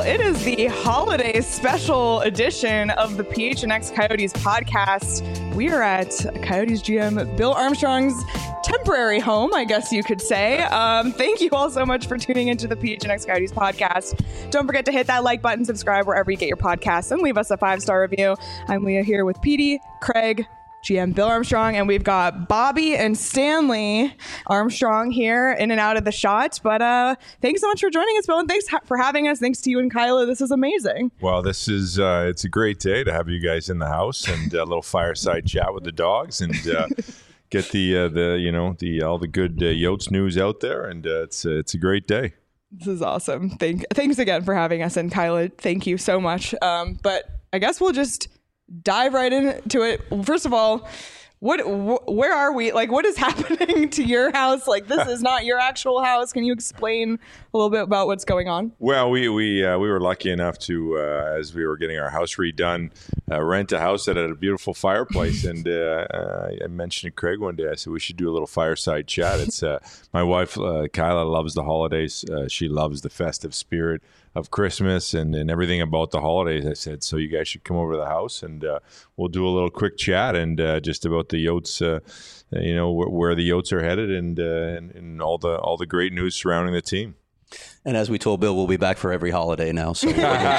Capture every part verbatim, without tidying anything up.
it is the holiday special edition of the P H N X Coyotes podcast. We are at Coyotes G M Bill Armstrong's temporary home, I guess you could say. Um, thank you all so much for tuning into the P H N X Coyotes podcast. Don't forget to hit that like button, subscribe wherever you get your podcasts, and leave us a five-star review. I'm Leah here with Petey, Craig, G M Bill Armstrong, and we've got Bobby and Stanley Armstrong here in and out of the shot. But uh, thanks so much for joining us, Bill, and thanks ha- for having us. Thanks to you and Kyla. This is amazing. Well, this is uh, it's a great day to have you guys in the house and a little fireside chat with the dogs and uh, get the uh, the you know the all the good uh, Yotes news out there. And uh, it's uh, it's a great day. This is awesome. Thank thanks again for having us, and Kyla, thank you so much. Um, but I guess we'll just dive right into it. First of all, what wh- where are we? Like, what is happening to your house? Like, this is not your actual house. Can you explain a little bit about what's going on? Well, we we uh, we were lucky enough to, uh, as we were getting our house redone, uh, rent a house that had a beautiful fireplace. And uh, uh, I mentioned to Craig one day, I said we should do a little fireside chat. It's uh, my wife uh, Kyla loves the holidays. Uh, she loves the festive spirit of Christmas and, and everything about the holidays. I said, so you guys should come over to the house and uh, we'll do a little quick chat and uh, just about the Yotes, uh, you know, wh- where the Yotes are headed and, uh, and and all the all the great news surrounding the team. And as we told Bill, we'll be back for every holiday now. So we'll be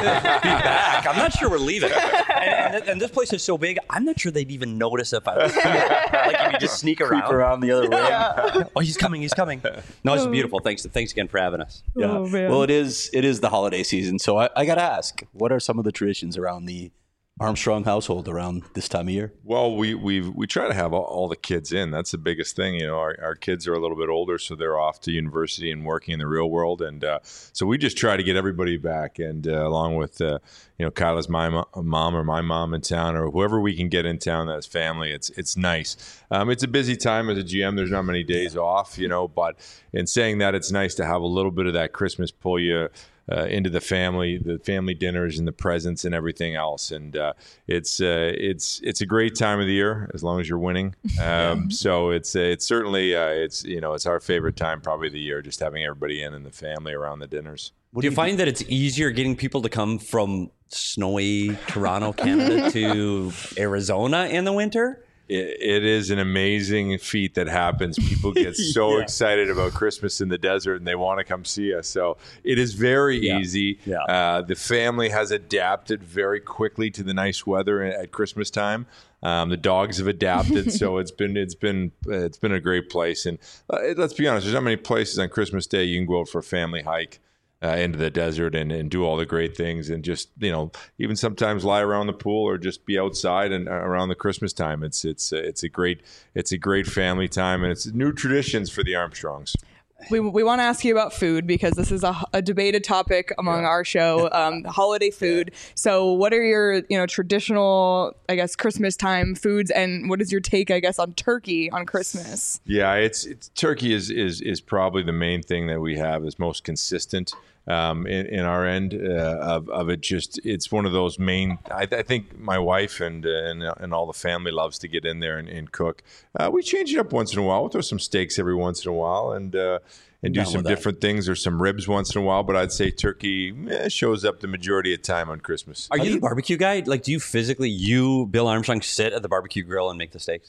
back. I'm not sure we're leaving. And, and, and this place is so big, I'm not sure they'd even notice if I was here. Like if you just sneak around. Creep around the other way. Yeah. Oh, he's coming, he's coming. No, it's beautiful. Thanks thanks again for having us. Yeah. Oh, man. Well, it is it is the holiday season. So I, I got to ask, what are some of the traditions around the Armstrong household around this time of year? Well, we we we try to have all, all the kids in. That's the biggest thing. You know, our, our kids are a little bit older, so they're off to university and working in the real world, and uh, so we just try to get everybody back. And uh, along with uh, you know Kyla's my mo- mom or my mom in town, or whoever we can get in town that's family. It's it's nice. Um, it's a busy time as a G M. There's not many days off, you know. But in saying that, it's nice to have a little bit of that Christmas pull you Uh, into the family, the family dinners and the presents and everything else, and uh, it's uh, it's it's a great time of the year as long as you're winning. Um, so it's uh, it's certainly uh, it's you know it's our favorite time probably of the year, just having everybody in and the family around the dinners. Do you, you find that it's easier getting people to come from snowy Toronto, Canada to Arizona in the winter? It, it is an amazing feat that happens. People get so Yeah. excited about Christmas in the desert and they want to come see us. So it is very Yeah. easy. Yeah. Uh, the family has adapted very quickly to the nice weather at Christmas time. Um, the dogs have adapted, so it's been it's been uh, it's been a great place. And uh, let's be honest, there's not many places on Christmas Day you can go out for a family hike Uh, into the desert and, and do all the great things and just, you know, even sometimes lie around the pool or just be outside and uh, around the Christmas time. It's it's uh, it's a great it's a great family time, and it's new traditions for the Armstrongs. We, we want to ask you about food because this is a, a debated topic among Yeah. our show, um, holiday food. So what are your, you know, traditional, I guess, Christmas time foods, and what is your take, I guess, on turkey on Christmas? Yeah, it's, it's turkey is, is is probably the main thing that we have is most consistent um, in, in our end uh, of, of it. Just it's one of those main. I, I think my wife and uh, and and all the family loves to get in there and, and cook. Uh, we change it up once in a while. We'll throw some steaks every once in a while and uh, and do Down some with that. different things or some ribs once in a while. But I'd say turkey eh, shows up the majority of time on Christmas. Are you the barbecue guy? Like, do you physically, you, Bill Armstrong, sit at the barbecue grill and make the steaks?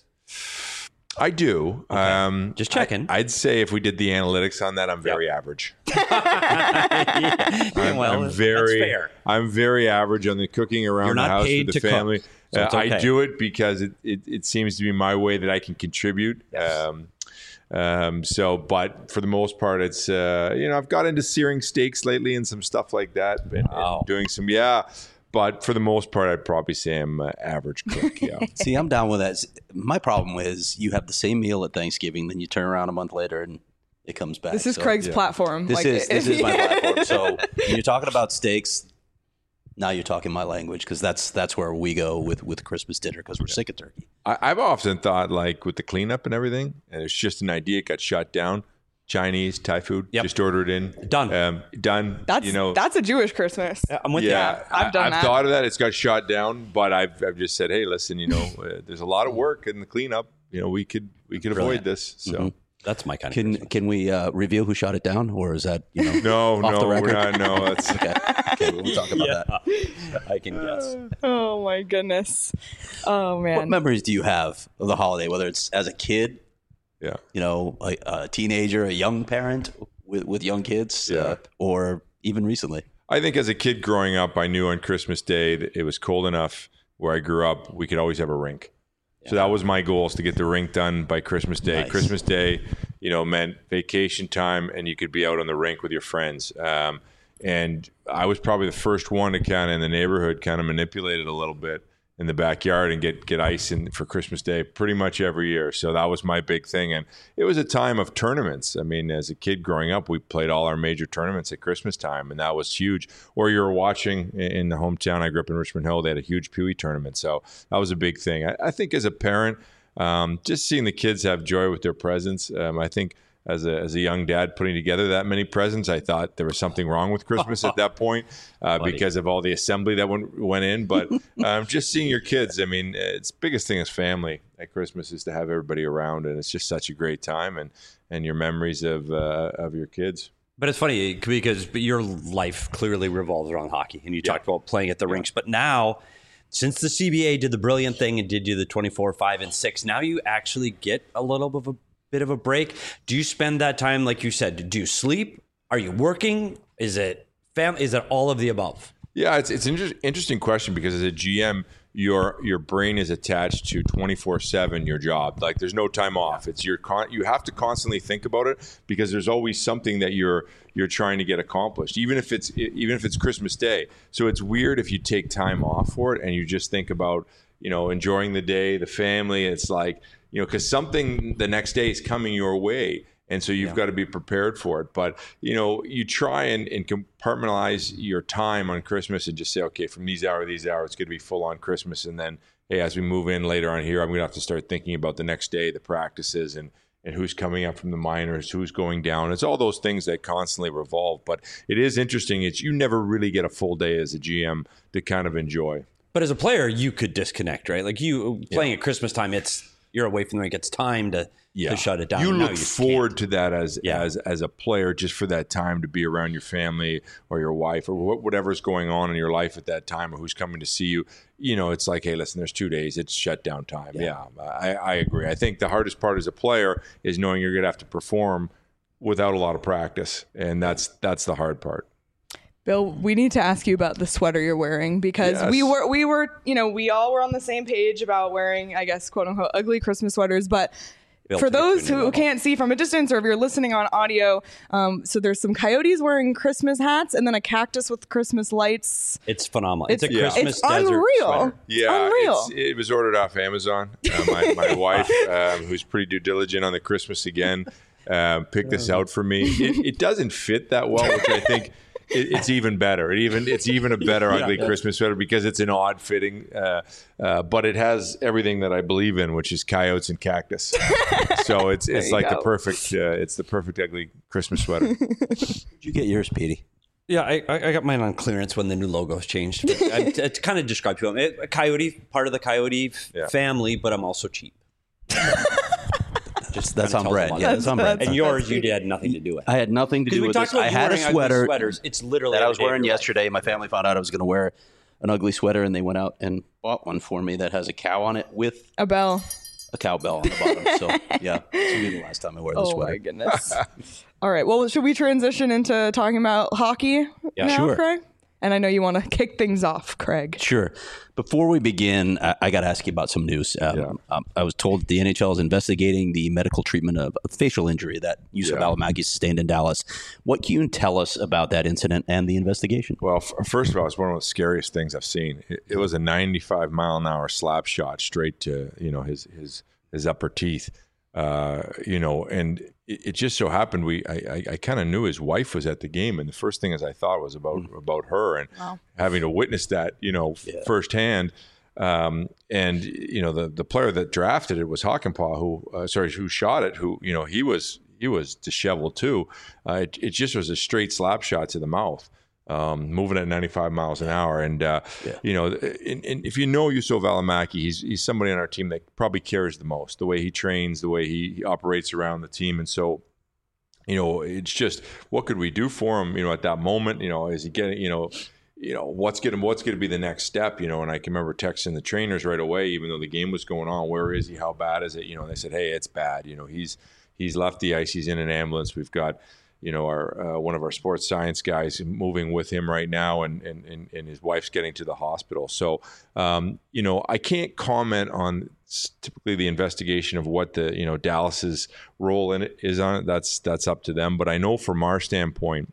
I do. Um, Just checking. I, I'd say if we did the analytics on that, I'm very average. Yeah, I'm, well, I'm very, that's fair. I'm very average on the cooking around You're the not house paid with the to cook, family. so it's Uh, okay. I do it because it, it, it seems to be my way that I can contribute. Yes. Um, um, so, but for the most part, it's uh, you know I've got into searing steaks lately and some stuff like that, and, and Wow. doing some yeah. But for the most part, I'd probably say I'm uh, average cook. Yeah. See, I'm down with that. My problem is you have the same meal at Thanksgiving, then you turn around a month later and it comes back. This is So Craig's yeah. platform. This Like, is this is my yeah. platform. So when you're talking about steaks, now you're talking my language because that's that's where we go with with Christmas dinner because we're sick of turkey. I, I've often thought like with the cleanup and everything, and it's just an idea. It got shot down. Chinese, Thai food. Yep. Just order it in. Done. Um, done. That's you know. that's a Jewish Christmas. Yeah, I'm with yeah, you. I've done I, I've that. thought of that. It's got shot down, but I've I've just said, hey, listen, you know, uh, there's a lot of work in the cleanup. You know, we could we could Brilliant. avoid this. So. Mhm. That's my kind of Can Christmas. can we uh, reveal who shot it down, or is that you know? No, Off the no, we're record? not. No, that's Okay, okay, we'll talk about that. I can guess. Oh my goodness. Oh What man. memories do you have of the holiday? Whether it's as a kid, yeah. you know, a, a teenager, a young parent with with young kids, Yeah. uh, or even recently. I think as a kid growing up, I knew on Christmas Day that it was cold enough where I grew up, we could always have a rink. So that was my goal, is to get the rink done by Christmas Day. Nice. Christmas Day, you know, meant vacation time, and you could be out on the rink with your friends. Um, and I was probably the first one to kind of in the neighborhood kind of manipulate it a little bit in the backyard and get get ice in for Christmas Day pretty much every year. So that was my big thing. And it was a time of tournaments. I mean, as a kid growing up, we played all our major tournaments at Christmas time, and that was huge. Or you were watching in the hometown. I grew up in Richmond Hill. They had a huge Pee Wee tournament. So that was a big thing. I, I think as a parent, um, just seeing the kids have joy with their presents, um, I think as a, as a young dad putting together that many presents, I thought there was something wrong with Christmas at that point uh, because of all the assembly that went, went in. But um, just seeing your kids, I mean, it's biggest thing is family at Christmas is to have everybody around, and it's just such a great time, and, and your memories of uh, of your kids. But it's funny because your life clearly revolves around hockey, and you Yeah. talked about playing at the rinks. But now, since the C B A did the brilliant thing and did you the twenty-four, five, and six, now you actually get a little bit of a bit of a break. Do you spend that time, like you said, do you sleep? Are you working? Is it fam? Is it all of the above? Yeah, it's it's an inter- interesting question because as a G M, your your brain is attached to twenty-four seven your job. Like there's no time off. It's your con- you have to constantly think about it because there's always something that you're you're trying to get accomplished, even if it's even if it's Christmas Day. So it's weird if you take time off for it and you just think about, you know, enjoying the day, the family. It's like, you know, because something the next day is coming your way. And so you've got to be prepared for it. But, you know, you try and, and compartmentalize your time on Christmas and just say, okay, from these hours, these hours, it's going to be full on Christmas. And then, hey, as we move in later on here, I'm going to have to start thinking about the next day, the practices, and, and who's coming up from the minors, who's going down. It's all those things that constantly revolve. But it is interesting. It's you never really get a full day as a G M to kind of enjoy. But as a player, you could disconnect, right? Like you playing at Christmas time, it's you're away from the rink. It's time to, to shut it down. You And now look just forward can't. to that as Yeah. as as a player, just for that time to be around your family or your wife or wh- whatever's going on in your life at that time, or who's coming to see you. You know, it's like, hey, listen, there's two days. It's shutdown time. Yeah, I, I agree. I think the hardest part as a player is knowing you're going to have to perform without a lot of practice, and that's that's the hard part. Bill, we need to ask you about the sweater you're wearing because Yes. we were we were you know we all were on the same page about wearing, I guess, quote unquote ugly Christmas sweaters. But Built for to get to a those new who level. can't see from a distance, or if you're listening on audio, um, so there's some coyotes wearing Christmas hats and then a cactus with Christmas lights. It's phenomenal. It's, It's- a yeah. Christmas it's desert unreal. sweater. Yeah, Unreal. it's, it was ordered off Amazon. Uh, my, my wife, um, who's pretty due diligent on the Christmas again, uh, picked this out for me. It, it doesn't fit that well, which I think it, it's even better. It even it's even a better ugly Christmas sweater because it's an odd fitting, uh, uh, but it has everything that I believe in, which is coyotes and cactus. So it's it's you like go. the perfect uh, it's the perfect ugly Christmas sweater. Did you get yours, Petey? Yeah, I, I I got mine on clearance when the new logos changed. But I, to kind of describe to them, it, a coyote, part of the coyote f- Yeah. family, but I'm also cheap. Just That's kinda on tells brand. them all Yeah, that. that's on brand. And yours, you had nothing to do with. I had nothing to Because do we with talked this. about I you had a wearing ugly sweater sweaters. It's literally that I every was day of wearing your life. yesterday. My family found out I was going to wear an ugly sweater, and they went out and bought one for me that has a cow on it with A bell. a cowbell on the bottom. So yeah, this will be the last time I wear this Oh sweater. my goodness. All right. Well, should we transition into talking about hockey Yeah, now, sure. Craig? And I know you want to kick things off, Craig. Sure. Before we begin, I, I got to ask you about some news. Um, Yeah. um, I was told that the N H L is investigating the medical treatment of a facial injury that Yusuf Yeah. Alamagi sustained in Dallas. What can you tell us about that incident and the investigation? Well, f- first of all, it's one of the scariest things I've seen. It, it was a ninety-five mile an hour slap shot straight to, you know, his his his upper teeth. Uh, you know, and it, it just so happened we I, I, I kind of knew his wife was at the game, and the first thing as I thought was about about her and Wow. having to witness that, you know, f- firsthand. Um, and you know, the the player that drafted it was Hockenpah, who uh, sorry, who shot it, who you know he was he was disheveled too. Uh, it, it just was a straight slap shot to the mouth. um, moving at ninety-five miles an hour. And, uh, yeah. you know, and, and if you know Juuso Välimäki, he's, he's somebody on our team that probably cares the most, the way he trains, the way he, he operates around the team. And so, you know, it's just, what could we do for him, you know, at that moment? You know, is he getting, you know, you know, what's going to what's going to be the next step, you know? And I can remember texting the trainers right away, even though the game was going on. Where is he? How bad is it? You know, and they said, hey, it's bad. You know, he's he's left the ice. He's in an ambulance. We've got, you know, our uh, one of our sports science guys moving with him right now, and and and, and his wife's getting to the hospital. So, um, you know, I can't comment on typically the investigation of what the, you know, Dallas's role in it is on it. That's that's up to them. But I know from our standpoint,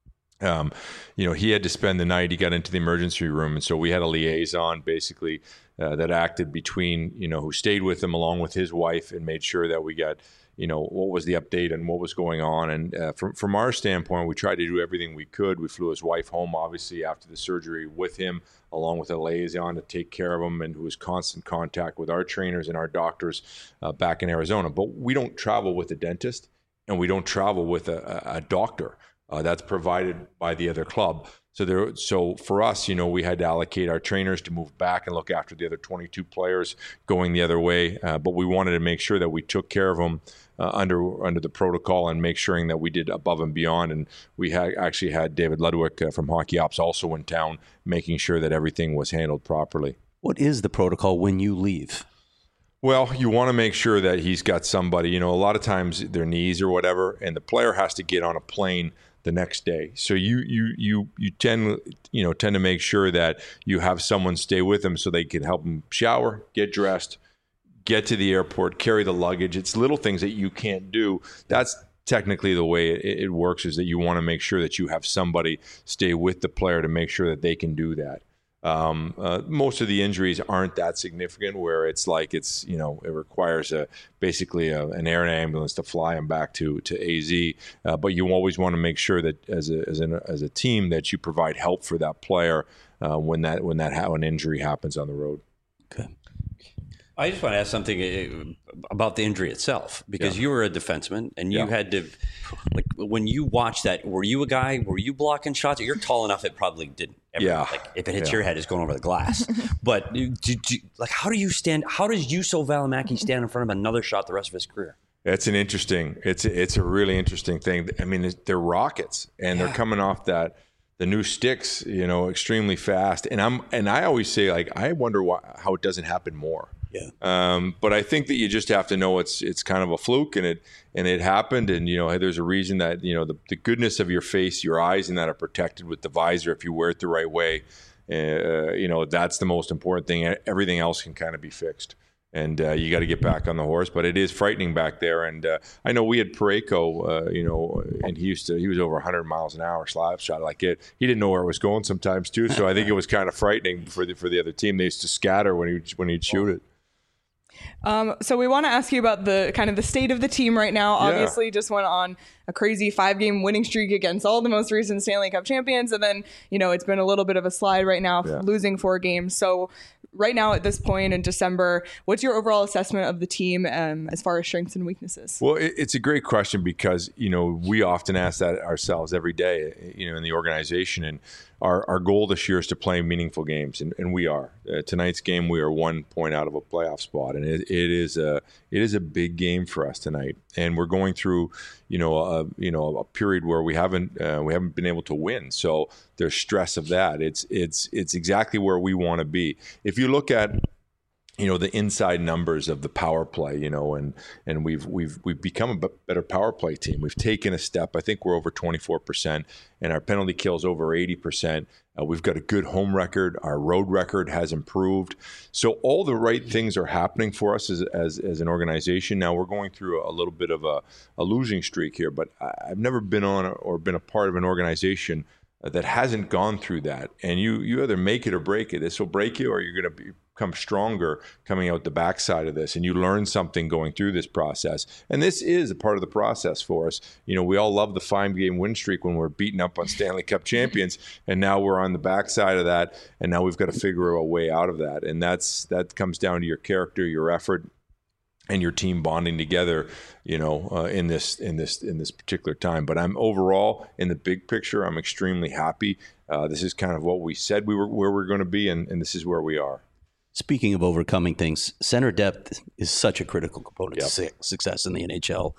Um, you know, he had to spend the night. He got into the emergency room, and so we had a liaison basically uh, that acted between, you know, who stayed with him along with his wife and made sure that we got, you know, what was the update and what was going on. And uh, from from our standpoint, we tried to do everything we could. We flew his wife home, obviously, after the surgery with him, along with a liaison to take care of him, and who was constant contact with our trainers and our doctors uh, back in Arizona. But we don't travel with a dentist, and we don't travel with a, a, a doctor. Uh, that's provided by the other club. So there, so for us, you know, we had to allocate our trainers to move back and look after the other twenty-two players going the other way. Uh, but we wanted to make sure that we took care of them uh, under under the protocol and make sure that we did above and beyond. And we had actually had David Ludwig uh, from Hockey Ops also in town, making sure that everything was handled properly. What is the protocol when you leave? Well, you want to make sure that he's got somebody, you know, a lot of times their knees or whatever, and the player has to get on a plane the next day. So you you you you tend you know tend to make sure that you have someone stay with them so they can help them shower, get dressed, get to the airport, carry the luggage. It's little things that you can't do. That's technically the way it, it works, is that you want to make sure that you have somebody stay with the player to make sure that they can do that. Um, uh, most of the injuries aren't that significant, where it's like it's, you know, it requires a basically a, an air ambulance to fly them back to to A Z. Uh, but you always want to make sure that as a as, an, as a team that you provide help for that player uh, when that when that how an injury happens on the road. Okay. I just want to ask something about the injury itself, because yeah. you were a defenseman and you yeah. had to, like, when you watched that, were you a guy, were you blocking shots? You're tall enough, it probably didn't. Ever, yeah. Like, if it hits yeah. your head, it's going over the glass. But did you, like, how do you stand, how does Juuso Välimäki stand in front of another shot the rest of his career? It's an interesting, it's it's a really interesting thing. I mean, they're rockets, and yeah. they're coming off that, the new sticks, you know, extremely fast. And I'm, and I always say, like, I wonder why, how it doesn't happen more. Yeah. Um, but I think that you just have to know it's it's kind of a fluke, and it and it happened, and you know, hey, there's a reason that, you know, the, the goodness of your face, your eyes, and that are protected with the visor if you wear it the right way. Uh, you know, that's the most important thing. Everything else can kind of be fixed, and uh, you got to get back on the horse. But it is frightening back there, and uh, I know we had Parayko, uh, you know, and he used to he was over one hundred miles an hour slap shot like it. He didn't know where it was going sometimes too, so I think it was kind of frightening for the for the other team. They used to scatter when he when he'd shoot it. Um, so we want to ask you about the kind of the state of the team right now. Yeah. Obviously, just went on a crazy five-game winning streak against all the most recent Stanley Cup champions, and then, you know, it's been a little bit of a slide right now, yeah. losing four games. So right now at this point in December, what's your overall assessment of the team um, as far as strengths and weaknesses? Well, it, it's a great question, because, you know, we often ask that ourselves every day, you know, in the organization, and our, our goal this year is to play meaningful games, and, and we are. Uh, tonight's game, we are one point out of a playoff spot, and it, it is a it is a big game for us tonight. And we're going through, you know, a you know a period where we haven't uh, we haven't been able to win. So there's stress of that. It's it's it's exactly where we want to be. If you look at, you know, the inside numbers of the power play, you know, and and we've we've we've become a better power play team. We've taken a step. I think we're over twenty-four percent, and our penalty kills over eighty percent. Uh, we've got a good home record. Our road record has improved. So all the right things are happening for us as as, as an organization. Now we're going through a, a little bit of a, a losing streak here, but I, I've never been on or been a part of an organization that hasn't gone through that. And you you either make it or break it. This will break you, or you're going to become stronger coming out the backside of this. And you learn something going through this process. And this is a part of the process for us. You know, we all love the five-game win streak when we're beating up on Stanley Cup champions. And now we're on the backside of that. And now we've got to figure a way out of that. And that's that comes down to your character, your effort, and your team bonding together, you know, uh, in this in this in this particular time. But I'm overall in the big picture, I'm extremely happy. Uh, this is kind of what we said we were where we're going to be, and, and this is where we are. Speaking of overcoming things, center depth is such a critical component Yep. to su- success in the N H L.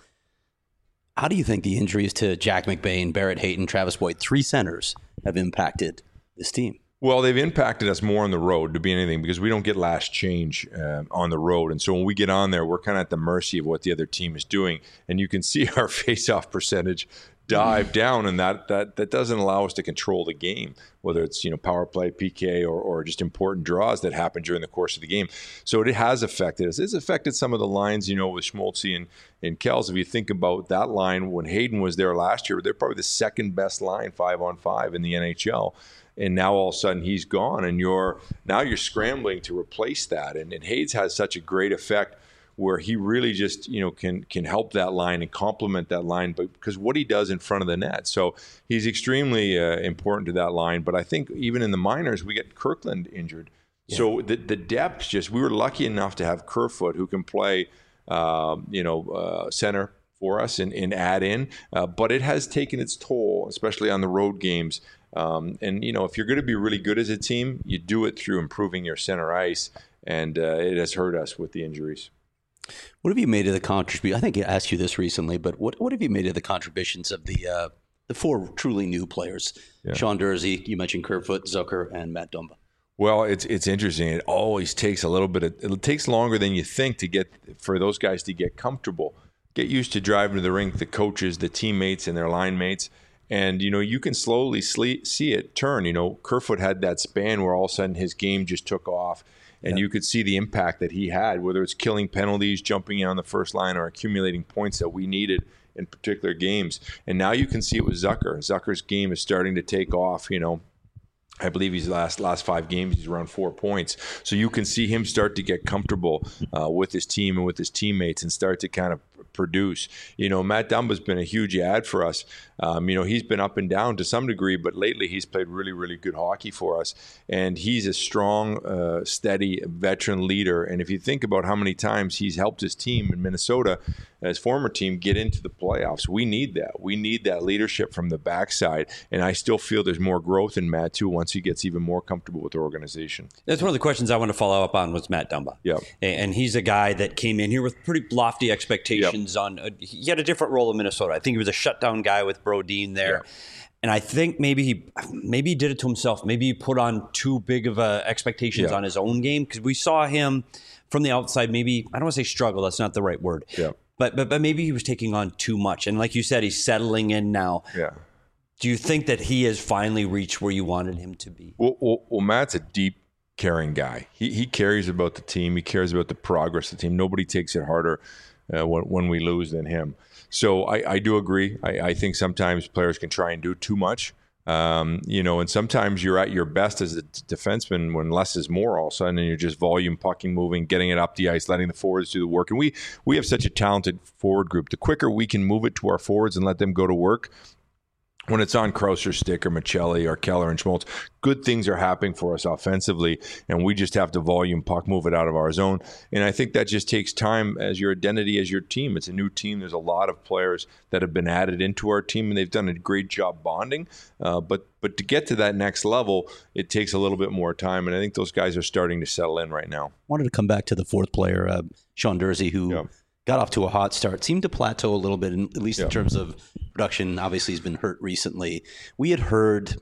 How do you think the injuries to Jack McBain, Barrett Hayton, Travis Boyd, three centers, have impacted this team? Well, they've impacted us more on the road to be anything because we don't get last change uh, on the road. And so when we get on there, we're kind of at the mercy of what the other team is doing. And you can see our face-off percentage dive down, and that that that doesn't allow us to control the game, whether it's, you know, power play, P K, or, or just important draws that happen during the course of the game. So it has affected us. It's affected some of the lines, you know, with Schmaltzy and, and Kells. If you think about that line, when Hayden was there last year, they're probably the second best line five on five in the N H L. And now all of a sudden he's gone, and you're now you're scrambling to replace that. And, and Hayes has such a great effect where he really just, you know, can can help that line and complement that line, but because what he does in front of the net. So he's extremely uh, important to that line. But I think even in the minors, we get Kirkland injured. Yeah. So the the depth just, we were lucky enough to have Kerfoot, who can play, uh, you know, uh, center for us and, and add in. Uh, but it has taken its toll, especially on the road games. Um, and, you know, if you're going to be really good as a team, you do it through improving your center ice. And uh, it has hurt us with the injuries. What have you made of the contribution? I think I asked you this recently, but what, what have you made of the contributions of the uh, the four truly new players? Yeah. Sean Durzi, you mentioned Kerfoot, Zucker, and Matt Dumba. Well, it's it's interesting. It always takes a little bit of, it takes longer than you think to get, for those guys to get comfortable, get used to driving to the rink, the coaches, the teammates, and their line mates. And, you know, you can slowly see it turn. You know, Kerfoot had that span where all of a sudden his game just took off. And yeah. you could see the impact that he had, whether it's killing penalties, jumping in on the first line, or accumulating points that we needed in particular games. And now you can see it with Zucker. Zucker's game is starting to take off. You know, I believe he's last last five games, he's around four points. So you can see him start to get comfortable uh, with his team and with his teammates and start to kind of produce. You know, Matt Dumba's been a huge add for us. Um, you know, he's been up and down to some degree, but lately he's played really, really good hockey for us. And he's a strong, uh, steady veteran leader. And if you think about how many times he's helped his team in Minnesota, his former team, get into the playoffs, we need that. We need that leadership from the backside. And I still feel there's more growth in Matt, too, once he gets even more comfortable with the organization. That's one of the questions I want to follow up on was Matt Dumba. Yep. And he's a guy that came in here with pretty lofty expectations. Yep. on. Uh, he had a different role in Minnesota. I think he was a shutdown guy with Brodin there. Yep. And I think maybe he maybe he did it to himself. Maybe he put on too big of uh, expectations yep. on his own game, because we saw him from the outside, maybe, I don't want to say struggle, that's not the right word. Yeah. But, but but maybe he was taking on too much. And like you said, he's settling in now. Yeah. Do you think that he has finally reached where you wanted him to be? Well, well, well Matt's a deep, caring guy. He he cares about the team. He cares about the progress of the team. Nobody takes it harder uh, when, when we lose than him. So I, I do agree. I, I think sometimes players can try and do too much. Um, you know, and sometimes you're at your best as a defenseman when less is more all of a sudden, and you're just volume, pucking, moving, getting it up the ice, letting the forwards do the work. And we we have such a talented forward group. The quicker we can move it to our forwards and let them go to work, when it's on Krauser's stick or Michelli or Keller and Schmaltz, good things are happening for us offensively, and we just have to volume puck, move it out of our zone. And I think that just takes time as your identity, as your team. It's a new team. There's a lot of players that have been added into our team, and they've done a great job bonding. Uh, but but to get to that next level, it takes a little bit more time, and I think those guys are starting to settle in right now. I wanted to come back to the fourth player, uh, Sean Durzi, who yeah. got off to a hot start, seemed to plateau a little bit, in, at least yeah. in terms of production. Obviously, he's been hurt recently. We had heard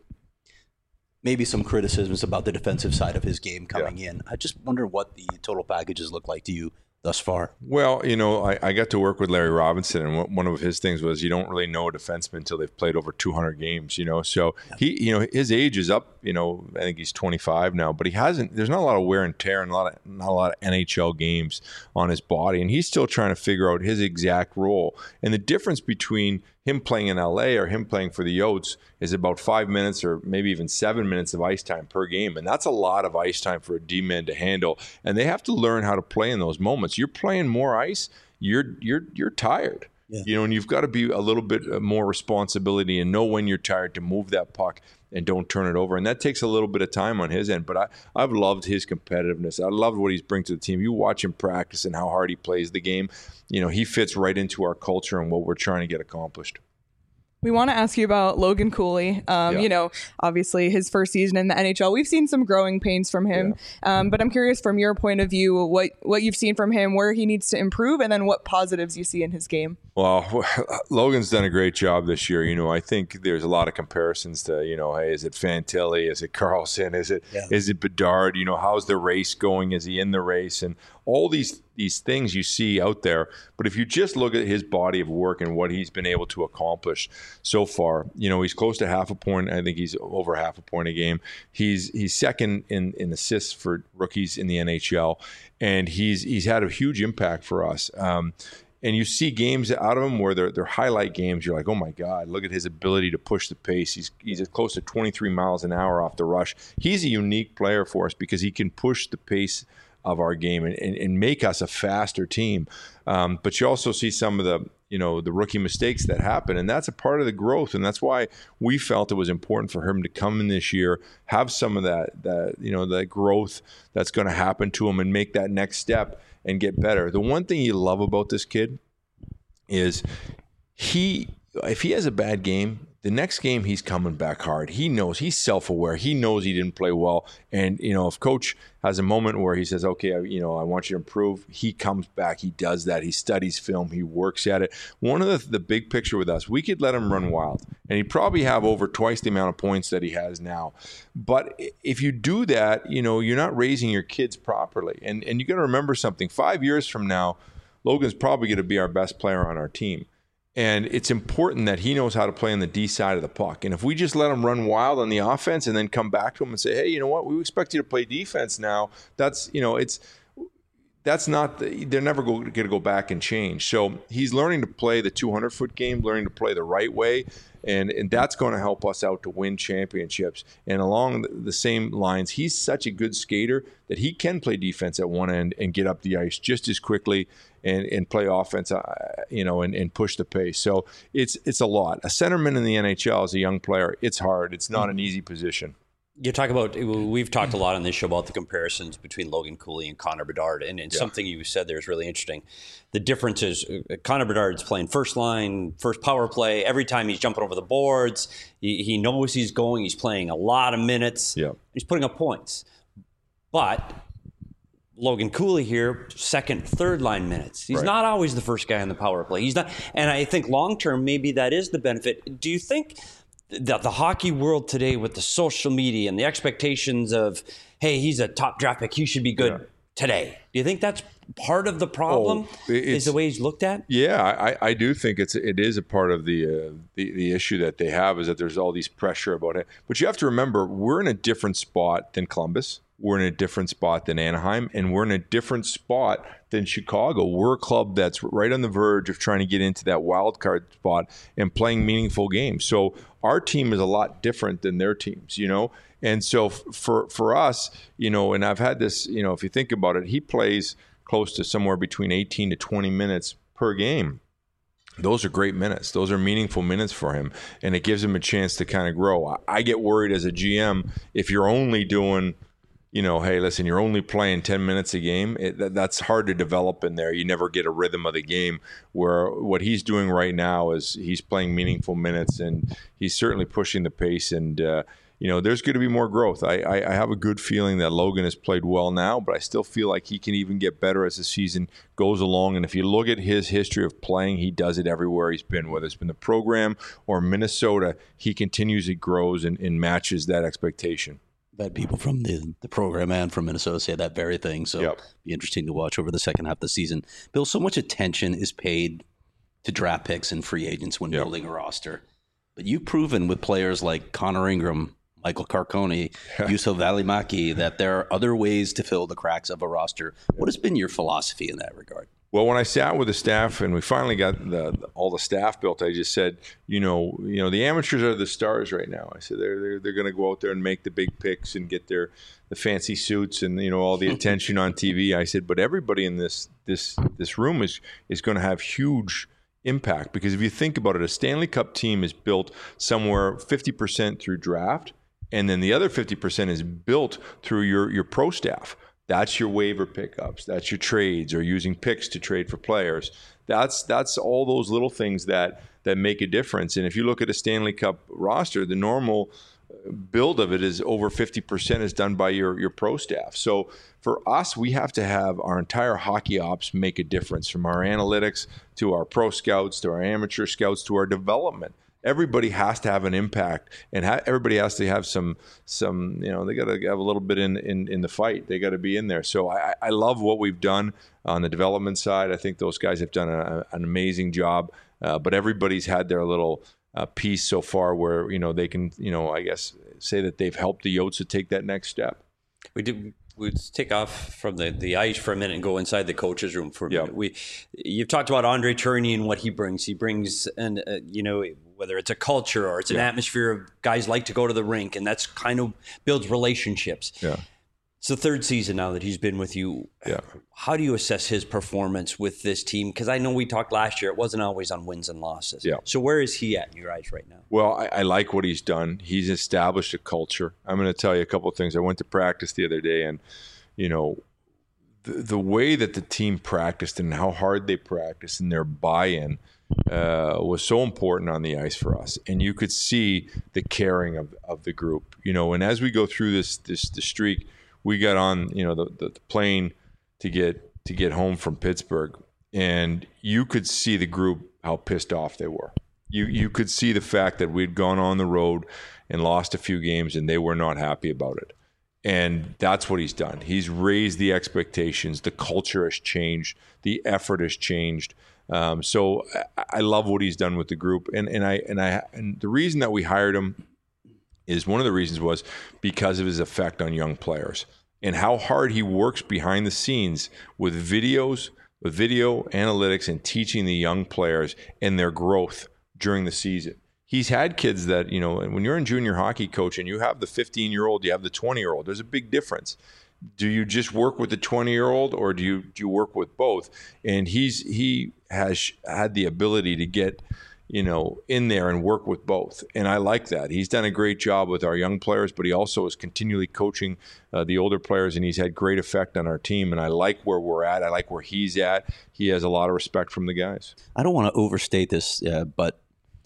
maybe some criticisms about the defensive side of his game coming yeah. in. I just wonder what the total packages look like to you thus far. Well, you know, I, I got to work with Larry Robinson, and one of his things was you don't really know a defenseman until they've played over two hundred games, you know. So yeah. he, you know, his age is up, you know, I think he's twenty-five now, but he hasn't, there's not a lot of wear and tear and a lot of, not a lot of N H L games on his body, and he's still trying to figure out his exact role. And the difference between him playing in L A or him playing for the Yotes is about five minutes or maybe even seven minutes of ice time per game. And that's a lot of ice time for a D-man to handle. And they have to learn how to play in those moments. You're playing more ice, you're you're you're tired. Yeah. You know, and you've got to be a little bit more responsibility and know when you're tired to move that puck and don't turn it over. And that takes a little bit of time on his end. But I, I've loved his competitiveness. I loved what he's bringing to the team. You watch him practice and how hard he plays the game. You know, he fits right into our culture and what we're trying to get accomplished. We want to ask you about Logan Cooley. Um, Yeah. You know, obviously his first season in the N H L, we've seen some growing pains from him. Um, but I'm curious from your point of view, what, what you've seen from him, where he needs to improve, and then what positives you see in his game. Well, Logan's done a great job this year. You know, I think there's a lot of comparisons to, you know, hey, is it Fantilli? Is it Carlson? Is it Yeah. is it Bedard? You know, how's the race going? Is he in the race? And all these these things you see out there. But if you just look at his body of work and what he's been able to accomplish so far, you know, he's close to half a point. I think he's over half a point a game. He's he's second in, in assists for rookies in the N H L, and he's he's had a huge impact for us. Um, And you see games out of him where they're, they're highlight games. You're like, oh my God, look at his ability to push the pace. He's he's at close to twenty-three miles an hour off the rush. He's a unique player for us because he can push the pace of our game and, and, and make us a faster team. Um, but you also see some of the, you know, the rookie mistakes that happen, and that's a part of the growth. And that's why we felt it was important for him to come in this year, have some of that, that you know, that growth that's going to happen to him and make that next step and get better. The one thing you love about this kid is he, if he has a bad game, the next game he's coming back hard. He knows, he's self-aware. He knows he didn't play well. And, you know, if coach has a moment where he says, okay, I, you know, I want you to improve, he comes back, he does that. He studies film, he works at it. One of the, the big picture with us, we could let him run wild and he'd probably have over twice the amount of points that he has now. But if you do that, you know, you're not raising your kids properly. And, and you got to remember something, five years from now, Logan's probably going to be our best player on our team. And it's important that he knows how to play on the D side of the puck. And if we just let him run wild on the offense and then come back to him and say, hey, you know what, we expect you to play defense now, that's, you know, it's, that's not, the, they're never going to go back and change. So he's learning to play the two hundred foot game, learning to play the right way. And, and that's going to help us out to win championships. And along the, the same lines, he's such a good skater that he can play defense at one end and get up the ice just as quickly and, and play offense, uh, you know, and, and push the pace. So it's it's a lot. A centerman in the N H L as a young player, it's hard. It's not an easy position. You talk about, we've talked a lot on this show about the comparisons between Logan Cooley and Connor Bedard, and, and yeah. something you said there is really interesting. The difference is uh, Connor Bedard's playing first line, first power play. Every time he's jumping over the boards, he, he knows he's going. He's playing a lot of minutes. Yeah. He's putting up points. But Logan Cooley here, second, third line minutes. He's right. not always the first guy on the power play. He's not, and I think long term, maybe that is the benefit. Do you think that the hockey world today, with the social media and the expectations of, hey, he's a top draft pick, he should be good yeah. today, do you think that's part of the problem? Oh, is the way he's looked at? Yeah, I, I do think it's it is a part of the, uh, the the issue that they have, is that there's all these pressure about it. But you have to remember, we're in a different spot than Columbus. We're in a different spot than Anaheim, and we're in a different spot than Chicago. We're a club that's right on the verge of trying to get into that wild card spot and playing meaningful games. So our team is a lot different than their teams, you know? And so for for us, you know, and I've had this, you know, if you think about it, he plays close to somewhere between eighteen to twenty minutes per game. Those are great minutes. Those are meaningful minutes for him, and it gives him a chance to kind of grow. I get worried as a G M if you're only doing, you know, hey, listen, you're only playing ten minutes a game. It, that, that's hard to develop in there. You never get a rhythm of the game, where what he's doing right now is he's playing meaningful minutes, and he's certainly pushing the pace. And, uh, you know, there's going to be more growth. I, I, I have a good feeling that Logan has played well now, but I still feel like he can even get better as the season goes along. And if you look at his history of playing, he does it everywhere he's been, whether it's been the program or Minnesota. He continues, he grows and, and matches that expectation. I've had people from the, the program and from Minnesota say that very thing. So yep. it'll be interesting to watch over the second half of the season. Bill, so much attention is paid to draft picks and free agents when yep. building a roster. But you've proven with players like Connor Ingram, Michael Carcone, Juuso Välimäki, that there are other ways to fill the cracks of a roster. What has been your philosophy in that regard? Well, when I sat with the staff and we finally got the, the, all the staff built, I just said, you know, you know, the amateurs are the stars right now. I said they're they're, they're going to go out there and make the big picks and get their the fancy suits and, you know, all the attention on T V. I said, but everybody in this this this room is is going to have huge impact, because if you think about it, a Stanley Cup team is built somewhere fifty percent through draft And then the other fifty percent is built through your, your pro staff. That's your waiver pickups. That's your trades or using picks to trade for players. That's that's all those little things that that make a difference. And if you look at a Stanley Cup roster, the normal build of it is over fifty percent is done by your, your pro staff. So for us, we have to have our entire hockey ops make a difference, from our analytics to our pro scouts to our amateur scouts to our development. Everybody has to have an impact, and ha- everybody has to have some, some you know, they got to have a little bit in, in, in the fight. They got to be in there. So I, I love what we've done on the development side. I think those guys have done a, an amazing job, uh, but everybody's had their little uh, piece so far where, you know, they can, you know, I guess say that they've helped the Yotes to take that next step. We did. We'd take off from the, the ice for a minute and go inside the coach's room for a minute. Yep. We, you've talked about Andre Tourigny and what he brings. He brings, an, uh, you know, whether it's a culture or it's an yeah. atmosphere of guys like to go to the rink, and that's kind of builds relationships. Yeah. It's the third season now that he's been with you. Yeah. How do you assess his performance with this team? Because I know we talked last year, it wasn't always on wins and losses. Yeah. So where is he at in your eyes right now? Well, I, I like what he's done. He's established a culture. I'm going to tell you a couple of things. I went to practice the other day, and, you know, the, the way that the team practiced and how hard they practiced and their buy-in uh, was so important on the ice for us. And you could see the caring of, of the group, you know, and as we go through this, this, the streak, we got on, you know, the, the, the plane to get to get home from Pittsburgh, and you could see the group how pissed off they were. You you could see the fact that we'd gone on the road and lost a few games, and they were not happy about it. And that's what he's done. He's raised the expectations. The culture has changed. The effort has changed. Um, so I, I love what he's done with the group, and and I and I and the reason that we hired him is one of the reasons was because of his effect on young players and how hard he works behind the scenes with videos, with video analytics, and teaching the young players and their growth during the season. He's had kids that, you know, when you're in junior hockey coach and you have the fifteen-year-old, you have the twenty-year-old, there's a big difference. Do you just work with the twenty-year-old, or do you do you work with both? And he's he has had the ability to get, you know, in there and work with both. And I like that. He's done a great job with our young players, but he also is continually coaching uh, the older players, and he's had great effect on our team. And I like where we're at. I like where he's at. He has a lot of respect from the guys. I don't want to overstate this, uh, but,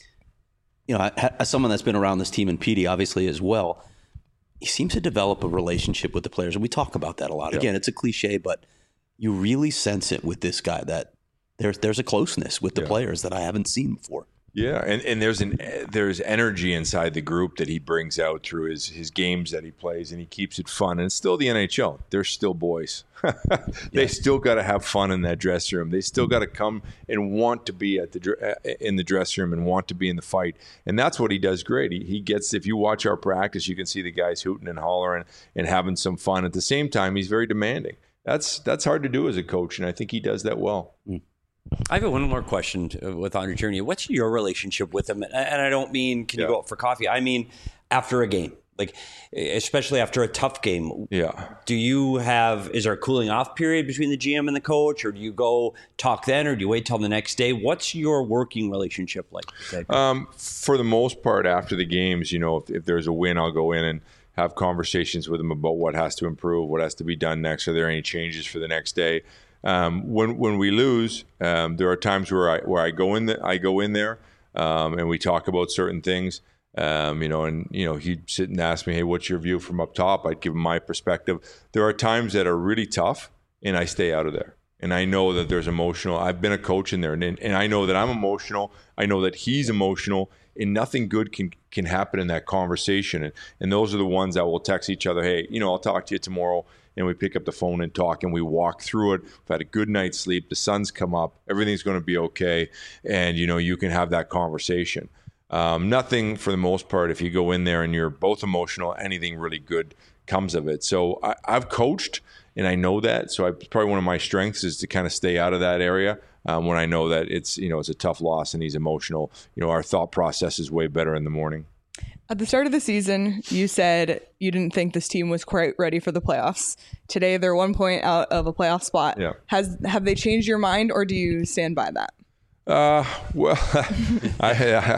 you know, as someone that's been around this team, and Petey obviously as well, he seems to develop a relationship with the players. And we talk about that a lot. Yeah. Again, it's a cliche, but you really sense it with this guy, that there's there's a closeness with the Yeah. players that I haven't seen before. Yeah, and, and there's an there's energy inside the group that he brings out through his his games that he plays, and he keeps it fun. And it's still the N H L. They're still boys. They Yeah. still got to have fun in that dressing room. They still got to come and want to be at the dr- in the dressing room and want to be in the fight. And that's what he does great. He, he gets, if you watch our practice, you can see the guys hooting and hollering and having some fun. At the same time, he's very demanding. That's that's hard to do as a coach, and I think he does that well. Mm. I have one more question with Andre Tourigny. What's your relationship with him? And I don't mean, can you Yeah. go out for coffee? I mean, after a game, like especially after a tough game. Yeah. Do you have, is there a cooling off period between the G M and the coach, or do you go talk then, or do you wait till the next day? What's your working relationship like? Um, for the most part, after the games, you know, if, if there's a win, I'll go in and have conversations with him about what has to improve, what has to be done next. Are there any changes for the next day? Um, when when we lose, um, there are times where I where I go in the, I go in there um, and we talk about certain things. Um, you know, and you know, he'd sit and ask me, "Hey, what's your view from up top?" I'd give him my perspective. There are times that are really tough, and I stay out of there. And I know that there's emotional. I've been a coach in there, and and I know that I'm emotional. I know that he's emotional, and nothing good can can happen in that conversation. And and those are the ones that will text each other, "Hey, you know, I'll talk to you tomorrow." And we pick up the phone and talk, and we walk through it. We've had a good night's sleep. The sun's come up. Everything's going to be okay. And, you know, you can have that conversation. Um, nothing, for the most part, if you go in there and you're both emotional, anything really good comes of it. So I, I've coached, and I know that. So I, probably one of my strengths is to kind of stay out of that area um, when I know that it's, you know, it's a tough loss and he's emotional. You know, our thought process is way better in the morning. At the start of the season, you said you didn't think this team was quite ready for the playoffs. Today, they're one point out of a playoff spot. Yeah. Has have they changed your mind, or do you stand by that? Uh, well, I,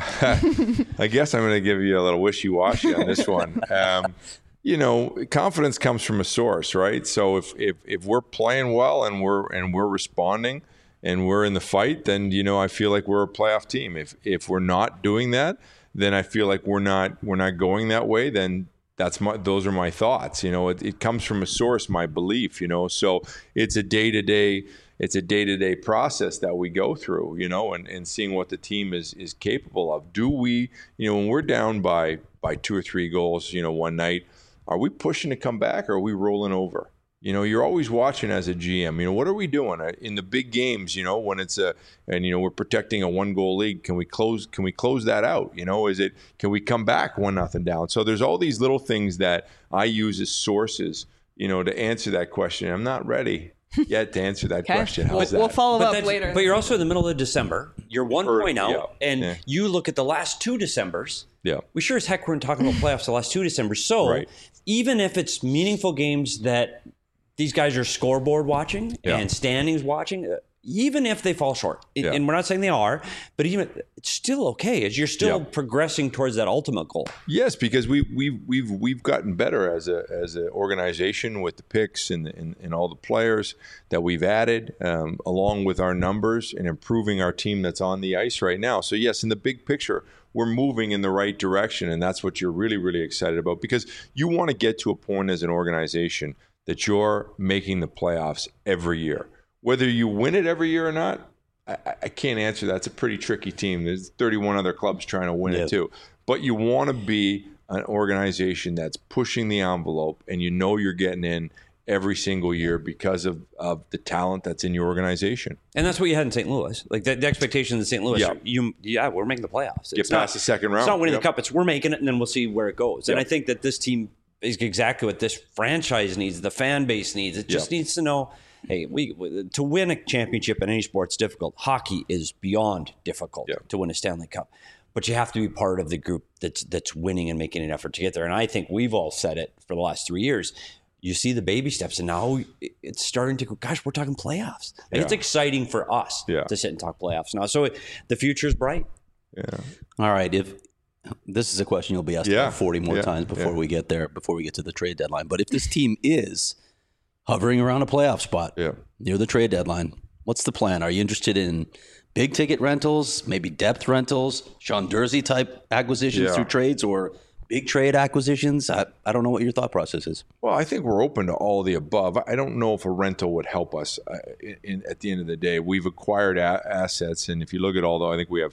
I, I guess I'm going to give you a little wishy-washy on this one. Um, you know, confidence comes from a source, right? So if, if if we're playing well and we're and we're responding and we're in the fight, then you know I feel like we're a playoff team. If if we're not doing that, then I feel like we're not we're not going that way. Then that's my those are my thoughts. You know, it, it comes from a source, my belief. You know, so it's a day to day. It's a day-to-day process that we go through, you know, and, and seeing what the team is is capable of. Do we, you know, when we're down by by two or three goals, you know, one night, are we pushing to come back or are we rolling over? You know, you're always watching as a G M. You know, what are we doing in the big games? You know, when it's a and you know we're protecting a one-goal lead. Can we close? Can we close that out? You know, is it? Can we come back one nothing down? So there's all these little things that I use as sources, you know, to answer that question. I'm not ready yet to answer that okay. question. How's we'll, that? We'll follow but up later. But you're also in the middle of December. You're one or, point out, yeah, and yeah. you look at the last two Decembers. Yeah. We sure as heck weren't talking about playoffs the last two Decembers. So right. even if it's meaningful games that these guys are scoreboard watching yeah. and standings watching, even if they fall short, yeah. and we're not saying they are, but even it's still okay as you're still yeah. progressing towards that ultimate goal. Yes, because we we've we've we've gotten better as a as an organization with the picks and, and and all the players that we've added, um, along with our numbers and improving our team that's on the ice right now. So yes, in the big picture, we're moving in the right direction, and that's what you're really really excited about because you want to get to a point as an organization that you're making the playoffs every year. Whether you win it every year or not, I, I can't answer that. It's a pretty tricky team. There's thirty-one other clubs trying to win yeah. it too. But you want to be an organization that's pushing the envelope and you know you're getting in every single year because of, of the talent that's in your organization. And that's what you had in Saint Louis. Like the, the expectations in Saint Louis, yeah. you, yeah, we're making the playoffs. Get It's past not, the second round. It's not winning yep. the cup. It's we're making it, and then we'll see where it goes. Yep. And I think that this team is exactly what this franchise needs, the fan base needs. It just yep. needs to know, hey, we to win a championship in any sport's difficult. Hockey is beyond difficult yep. to win a Stanley Cup. But you have to be part of the group that's that's winning and making an effort to get there. And I think we've all said it for the last three years. You see the baby steps, and now it's starting to go, gosh, we're talking playoffs. And yeah. it's exciting for us yeah. to sit and talk playoffs now. So the future's bright. Yeah. All right. If this is a question you'll be asked yeah. about forty more yeah. times before yeah. we get there, before we get to the trade deadline. But if this team is hovering around a playoff spot yeah. near the trade deadline, what's the plan? Are you interested in big ticket rentals, maybe depth rentals, Sean Durzi type acquisitions yeah. through trades, or big trade acquisitions? I, I don't know what your thought process is. Well, I think we're open to all of the above. I don't know if a rental would help us uh, in, in, at the end of the day. We've acquired a- assets, and if you look at all, though, I think we have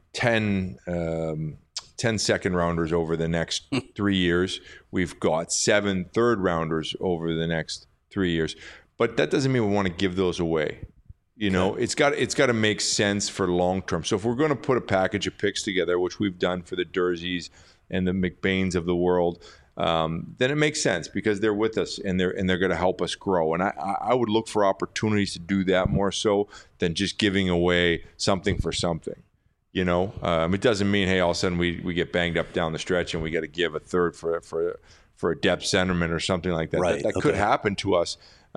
ten, um, ten second rounders over the next three years. We've got seven third rounders over the next three years. But that doesn't mean we want to give those away. You know, okay. it's got it's got to make sense for long term. So if we're going to put a package of picks together, which we've done for the Durzis and the McBains of the world, um, then it makes sense because they're with us and they're and they're going to help us grow. And I, I would look for opportunities to do that more so than just giving away something for something. You know, um, it doesn't mean, hey, all of a sudden we, we get banged up down the stretch and we got to give a third for for for a depth centerman or something like that. Right. That, that okay. could happen to us.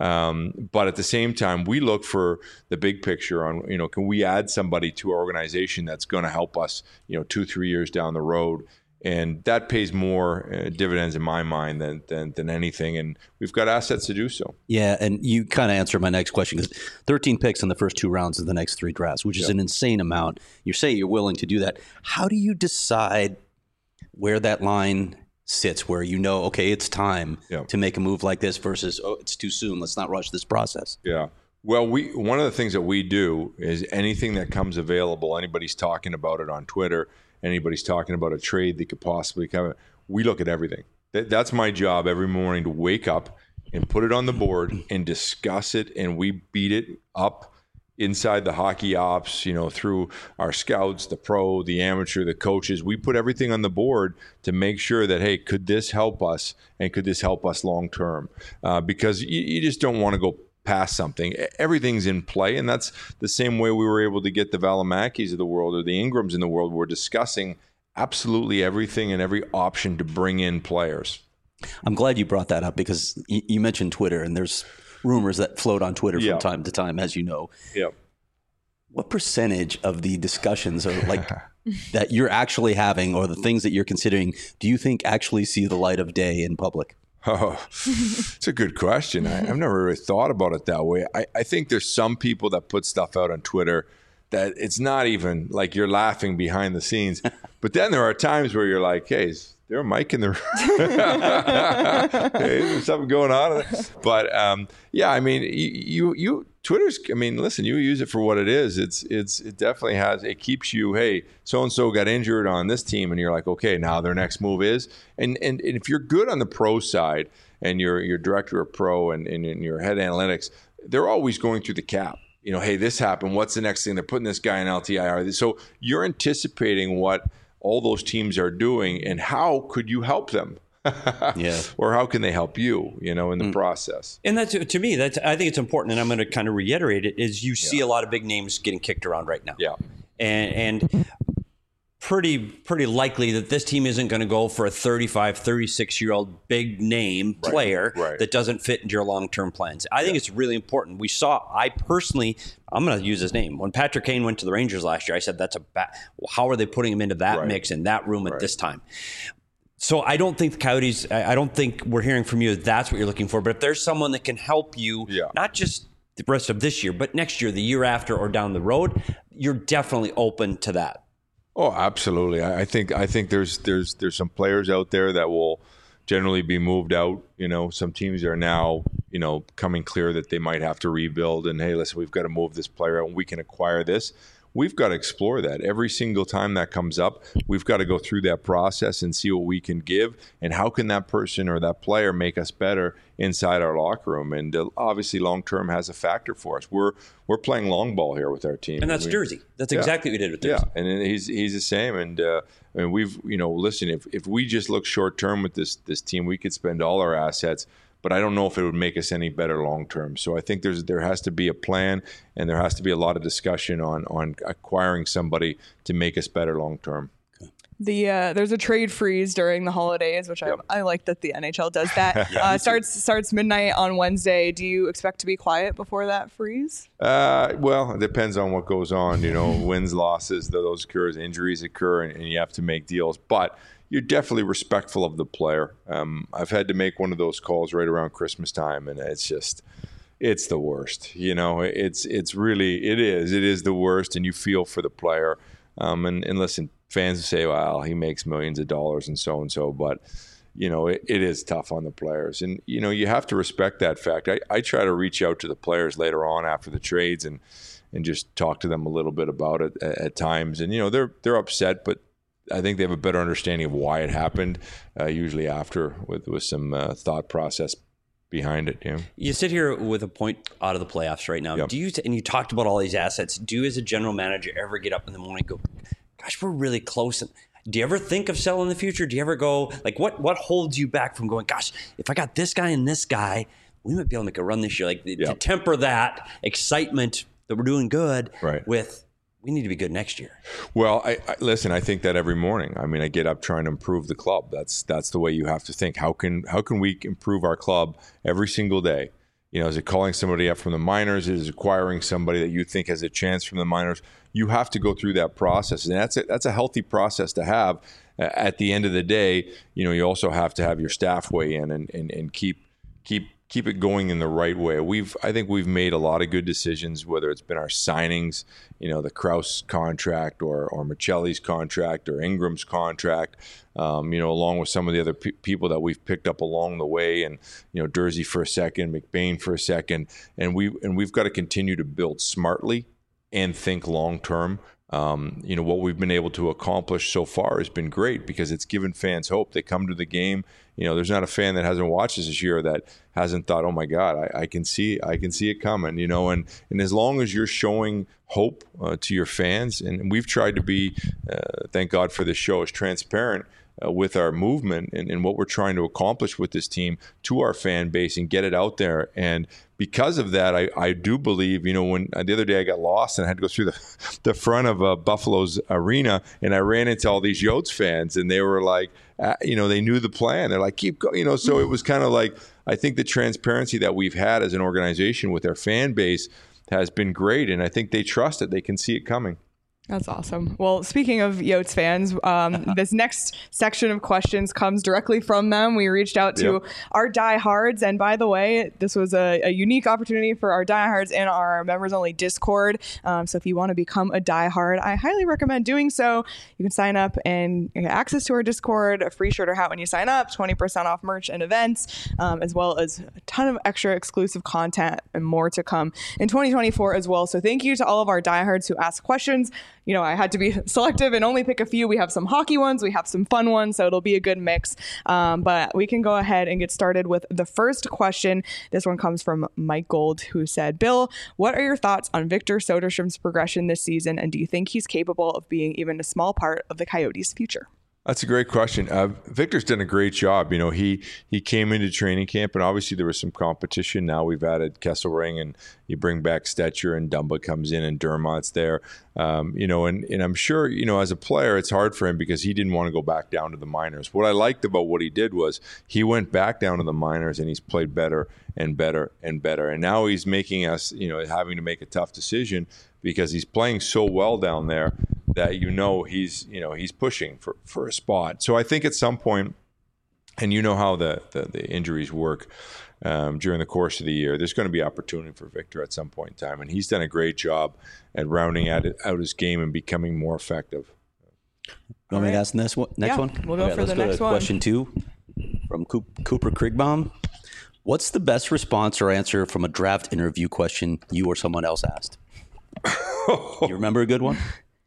Um, but at the same time, we look for the big picture on, you know, can we add somebody to our organization that's going to help us, you know, two, three years down the road. And that pays more uh, dividends in my mind than, than than anything. And we've got assets to do so. Yeah, and you kind of answered my next question because thirteen picks in the first two rounds of the next three drafts, which is yeah. an insane amount. You say you're willing to do that. How do you decide where that line sits, where you know, okay, it's time yeah. to make a move like this versus, oh, it's too soon, let's not rush this process? Yeah. Well, we one of the things that we do is anything that comes available, anybody's talking about it on Twitter, anybody's talking about a trade that could possibly come, we look at everything. That, that's my job every morning, to wake up and put it on the board and discuss it, and we beat it up inside the hockey ops, you know, through our scouts, the pro, the amateur, the coaches. We put everything on the board to make sure that, hey, could this help us, and could this help us long term? Uh, because you, you just don't want to go past something. Everything's in play, and that's the same way we were able to get the Valimakis of the world or the Ingrams in the world. We're discussing absolutely everything and every option to bring in players. I'm glad you brought that up because you, you mentioned Twitter, and there's rumors that float on Twitter yeah. from time to time, as you know. Yeah. what percentage of the discussions are like that you're actually having, or the things that you're considering, do you think actually see the light of day in public? Oh, it's a good question. I, I've never really thought about it that way. I, I think there's some people that put stuff out on Twitter that it's not even like you're laughing behind the scenes. But then there are times where you're like, hey, is there a mic in the room? Hey, is there something going on? But um, yeah, I mean, you, you, Twitter's, I mean, listen, you use it for what it is. It's, it's, it definitely has, it keeps you, hey, so-and-so got injured on this team. And you're like, okay, now their next move is, and, and, and if you're good on the pro side and you're, you're director of pro and, and, and your head analytics, they're always going through the cap. You know, hey, this happened. What's the next thing? They're putting this guy in L T I R. So you're anticipating what all those teams are doing and how could you help them? Yeah. Or how can they help you, you know, in the mm. process? And that's, to me, that's, I think it's important, and I'm going to kind of reiterate it, is you see yeah. a lot of big names getting kicked around right now. Yeah. And, and pretty pretty likely that this team isn't going to go for a thirty-five, thirty-six-year-old big name right. player right. that doesn't fit into your long-term plans. I yeah. think it's really important. We saw, I personally, I'm going to use his name. When Patrick Kane went to the Rangers last year, I said, that's a bad, well, how are they putting him into that right. mix in that room at right. this time? So I don't think the Coyotes, I don't think we're hearing from you that's what you're looking for. But if there's someone that can help you, yeah. not just the rest of this year, but next year, the year after, or down the road, you're definitely open to that. Oh, absolutely. I think I think there's there's there's some players out there that will generally be moved out. You know, some teams are now, you know, coming clear that they might have to rebuild. And hey, listen, we've got to move this player out and we can acquire this. We've got to explore that every single time that comes up. We've got to go through that process and see what we can give and how can that person or that player make us better inside our locker room. And uh, obviously, long term has a factor for us. We're we're playing long ball here with our team, and that's we, Jersey. That's yeah, exactly what we did with Jersey. Yeah, and he's he's the same. And uh, I mean, we've you know, listen, if if we just look short term with this this team, we could spend all our assets. But I don't know if it would make us any better long term. So I think there's there has to be a plan, and there has to be a lot of discussion on on acquiring somebody to make us better long term. The uh, there's a trade freeze during the holidays, which yep. I, I like that the N H L does that. yeah, uh, starts starts midnight on Wednesday. Do you expect to be quiet before that freeze? Uh, well, it depends on what goes on. You know, wins, losses, those occurs, injuries occur, and, and you have to make deals. But you're definitely respectful of the player. Um, I've had to make one of those calls right around Christmas time, and it's just, it's the worst. You know, it's it's really, it is. It is the worst, and you feel for the player. Um, and, and listen, fans say, well, he makes millions of dollars and so and so, but, you know, it, it is tough on the players. And, you know, you have to respect that fact. I, I try to reach out to the players later on after the trades and and just talk to them a little bit about it at, at times. And, you know, they're they're upset, but I think they have a better understanding of why it happened, uh, usually after with, with some uh, thought process behind it. Yeah. You sit here with a point out of the playoffs right now. Yep. Do you, and you talked about all these assets, do you as a general manager ever get up in the morning and go, gosh, we're really close? Do you ever think of selling in the future? Do you ever go, like, what what holds you back from going, gosh, if I got this guy and this guy, we might be able to make a run this year? Like, yep. to temper that excitement that we're doing good right. with, we need to be good next year. Well, I, I listen, I think that every morning. I mean, I get up trying to improve the club. That's that's the way you have to think. How can how can we improve our club every single day? You know, is it calling somebody up from the minors? Is it acquiring somebody that you think has a chance from the minors? You have to go through that process, and that's a, that's a healthy process to have. Uh, at the end of the day, you know, you also have to have your staff weigh in and and, and keep keep. keep it going in the right way. We've, I think we've made a lot of good decisions, whether it's been our signings, you know, the Krause contract or, or Michelli's contract or Ingram's contract, um, you know, along with some of the other pe- people that we've picked up along the way, and, you know, Jersey for a second, McBain for a second. And we, and we've got to continue to build smartly and think long-term. Um, you know, what we've been able to accomplish so far has been great because it's given fans hope. They come to the game. You know, there's not a fan that hasn't watched us this year that hasn't thought, oh my God, I, I can see, I can see it coming, you know, and, and as long as you're showing hope uh, to your fans, and we've tried to be, uh, thank God for this show, as transparent Uh, with our movement and, and what we're trying to accomplish with this team to our fan base and get it out there. And because of that, I, I do believe, you know, when uh, the other day I got lost and I had to go through the, the front of uh, Buffalo's arena, and I ran into all these Yotes fans, and they were like, uh, you know, they knew the plan. They're like, keep going, you know, so it was kind of like, I think the transparency that we've had as an organization with our fan base has been great, and I think they trust it. They can see it coming. That's awesome. Well, speaking of Yotes fans, um, this next section of questions comes directly from them. We reached out to yep. our diehards, and by the way, this was a, a unique opportunity for our diehards in our members-only Discord. Um, so if you want to become a diehard, I highly recommend doing so. You can sign up and get access to our Discord, a free shirt or hat when you sign up, twenty percent off merch and events, um, as well as a ton of extra exclusive content and more to come in twenty twenty-four as well. So thank you to all of our diehards who asked questions. You know, I had to be selective and only pick a few. We have some hockey ones, we have some fun ones, so it'll be a good mix. Um, but we can go ahead and get started with the first question. This one comes from Mike Gold, who said, Bill, what are your thoughts on Victor Soderstrom's progression this season, and do you think he's capable of being even a small part of the Coyotes' future? That's a great question. Uh, Victor's done a great job. You know, he he came into training camp, and obviously there was some competition. Now we've added Kesselring, and you bring back Stetcher, and Dumba comes in, and Dermott's there. Um, you know, and, and I'm sure, you know, as a player, it's hard for him because he didn't want to go back down to the minors. What I liked about what he did was he went back down to the minors, and he's played better and better and better. And now he's making us, you know, having to make a tough decision because he's playing so well down there that, you know, he's, you know, he's pushing for, for a spot. So I think at some point, and you know how the, the, the injuries work um, during the course of the year, there's going to be opportunity for Victor at some point in time. And he's done a great job at rounding out, out his game and becoming more effective. You want me to ask this one, next yeah, one? We'll go okay, for the go next to one. Question two from Cooper Krigbaum. What's the best response or answer from a draft interview question you or someone else asked? You remember a good one?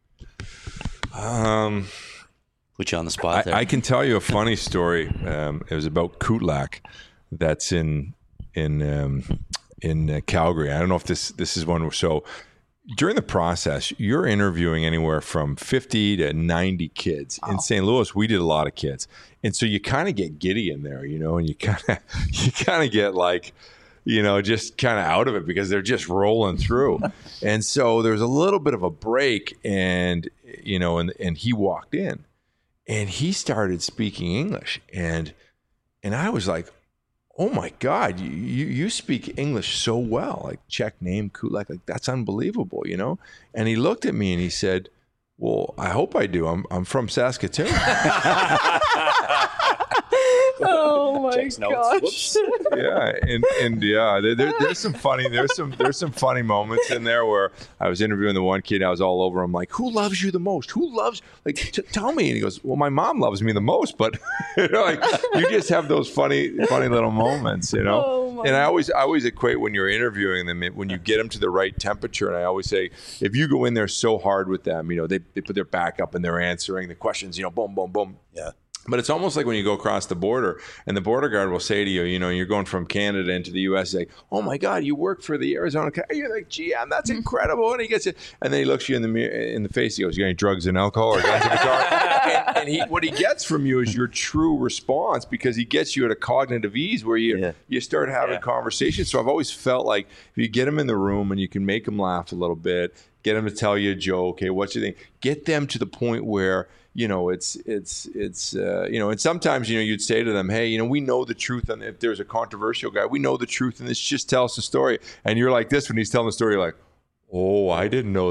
Um, Put you on the spot there. I, I can tell you a funny story. Um, it was about Kutlak. That's in in um, in uh, Calgary. I don't know if this this is one. So during the process, you're interviewing anywhere from fifty to ninety kids. Oh. In Saint Louis, we did a lot of kids, and so you kind of get giddy in there, you know, and you kind of you kind of get like, you know, just kind of out of it because they're just rolling through. And so there's a little bit of a break, and, you know, and, and he walked in and he started speaking English. And, and I was like, oh my God, you, you, you speak English so well, like Czech name, Kutlak, like that's unbelievable, you know? And he looked at me and he said, well, I hope I do. I'm, I'm from Saskatoon. Oh my gosh! Yeah, and and yeah, there, there, there's some funny there's some there's some funny moments in there where I was interviewing the one kid. I was all over him, like, who loves you the most? Who loves like t- tell me? And he goes, well, my mom loves me the most, but you know, like you just have those funny funny little moments, you know. Oh, and I always I always equate when you're interviewing them, when you get them to the right temperature, and I always say, if you go in there so hard with them, you know, they they put their back up and they're answering the questions, you know, boom, boom, boom. Yeah. But it's almost like when you go across the border and the border guard will say to you, you know, you're going from Canada into the U S, like, oh my God, you work for the Arizona. You're like, G M, that's incredible. And he gets it. And then he looks you in the mirror, in the face. He goes, you got any drugs and alcohol or guns in the car? and and he, what he gets from you is your true response, because he gets you at a cognitive ease where you, yeah. you start having yeah. conversations. So I've always felt like if you get him in the room and you can make him laugh a little bit, get them to tell you a joke. Hey, what's your thing? Get them to the point where, you know, it's, it's, it's, uh, you know, and sometimes, you know, you'd say to them, hey, you know, we know the truth. And if there's a controversial guy, we know the truth. And this just tell us the story. And you're like this, when he's telling the story, you're like, oh, I didn't know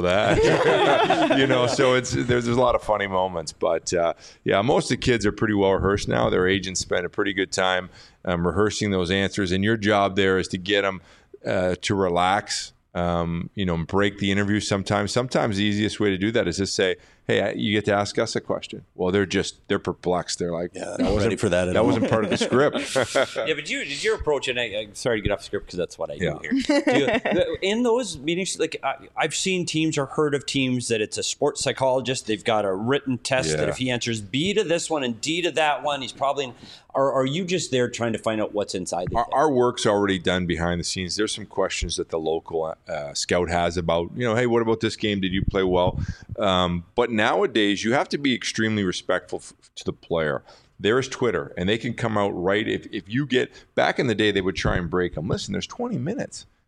that. You know, so it's, there's, there's a lot of funny moments. But uh, yeah, most of the kids are pretty well rehearsed now. Their agents spend a pretty good time um, rehearsing those answers. And your job there is to get them uh, to relax. Um, you know, break the interview sometimes. Sometimes the easiest way to do that is just say, hey, you get to ask us a question. Well, they're just, they're perplexed. They're like, yeah, I wasn't ready for that at That all. wasn't part of the script. Yeah, but you, did your approach, and I, I'm sorry to get off the script because that's what I do yeah. here. Do you, in those meetings, like I, I've seen teams or heard of teams that it's a sports psychologist. They've got a written test yeah. that if he answers B to this one and D to that one, he's probably, or are you just there trying to find out what's inside the our, our work's already done behind the scenes. There's some questions that the local uh, scout has about, you know, hey, what about this game? Did you play well? Um, but nowadays, you have to be extremely respectful f- to the player. There is Twitter, and they can come out right. If if you get, back in the day, they would try and break them. Listen, there's twenty minutes.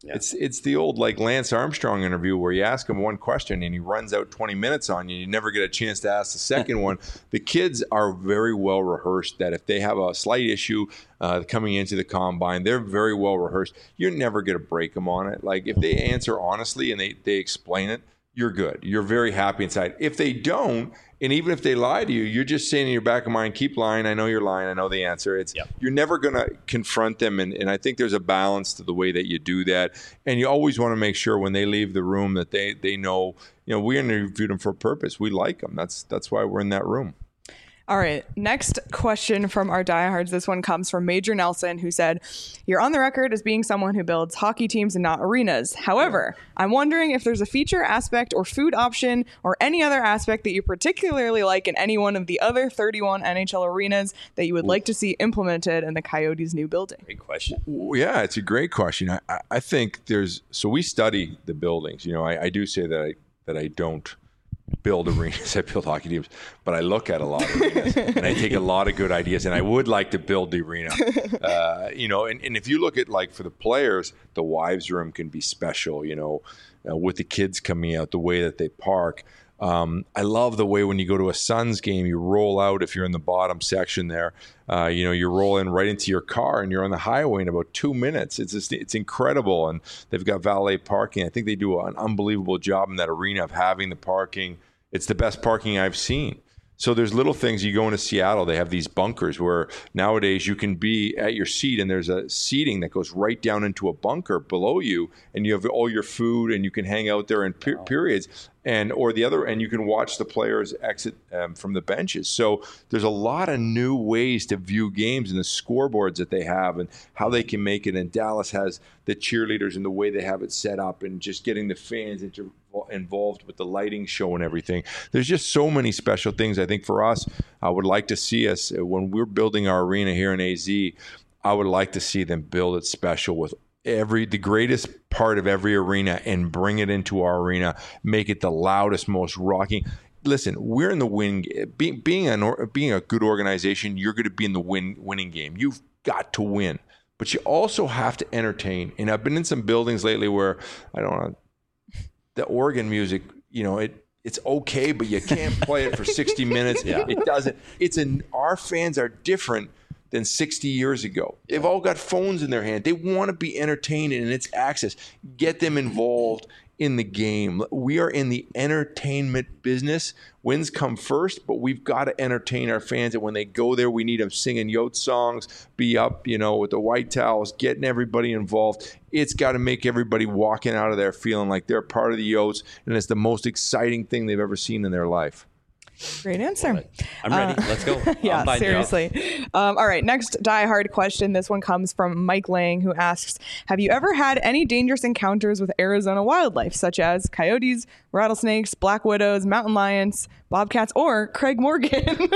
Yeah. It's it's the old like Lance Armstrong interview where you ask him one question and he runs out twenty minutes on you. You never get a chance to ask the second one. The kids are very well rehearsed that if they have a slight issue uh, coming into the combine, they're very well rehearsed. You're never going to break them on it. Like if they answer honestly and they, they explain it, you're good. You're very happy inside. If they don't, and even if they lie to you, you're just saying in your back of mind, keep lying. I know you're lying. I know the answer. It's yep. You're never going to confront them. And, and I think there's a balance to the way that you do that. And you always want to make sure when they leave the room that they, they know, you know, we interviewed them for a purpose. We like them. That's, that's why we're in that room. All right. Next question from our diehards. This one comes from Major Nelson, who said, "You're on the record as being someone who builds hockey teams and not arenas. However, I'm wondering if there's a feature aspect or food option or any other aspect that you particularly like in any one of the other thirty-one N H L arenas that you would like to see implemented in the Coyotes' new building." Great question. Yeah, it's a great question. I, I think there's, so we study the buildings. You know, I, I do say that I, that I don't build arenas. I build hockey teams, but I look at a lot of arenas and I take a lot of good ideas, and I would like to build the arena. Uh, you know, and, and if you look at like for the players, the wives' room can be special, you know, uh, with the kids coming out, the way that they park. Um, I love the way when you go to a Suns game, you roll out if you're in the bottom section there. Uh, you know, you roll in right into your car and you're on the highway in about two minutes. It's just, it's incredible. And they've got valet parking. I think they do an unbelievable job in that arena of having the parking. It's the best parking I've seen. So there's little things. You go into Seattle, they have these bunkers where nowadays you can be at your seat and there's a seating that goes right down into a bunker below you, and you have all your food and you can hang out there in per- periods. And or the other, and you can watch the players exit um, from the benches. So there's a lot of new ways to view games and the scoreboards that they have and how they can make it. And Dallas has the cheerleaders and the way they have it set up and just getting the fans into, involved with the lighting show and everything. There's just so many special things. I think for us, I would like to see us, when we're building our arena here in A Z, I would like to see them build it special with every the greatest part of every arena and bring it into our arena, make it the loudest, most rocking. Listen, we're in the win. Being being an being a good organization, you're going to be in the win winning game. You've got to win, but you also have to entertain. And I've been in some buildings lately where I don't know the organ music. You know it. It's okay, but you can't play it for sixty minutes. Yeah. It doesn't. It's an. Our fans are different than sixty years ago. They've all got phones in their hand. They want to be entertained, and it's access. Get them involved in the game. We are in the entertainment business. Wins come first, but we've got to entertain our fans. And when they go there, we need them singing Yote songs, be up, you know, with the white towels, getting everybody involved. It's got to make everybody walking out of there feeling like they're part of the Yotes, and it's the most exciting thing they've ever seen in their life. Great answer. I'm ready. Uh, Let's go. Yeah, seriously. Um, all right. Next diehard question. This one comes from Mike Lang, who asks, have you ever had any dangerous encounters with Arizona wildlife, such as coyotes, rattlesnakes, black widows, mountain lions, bobcats, or Craig Morgan? He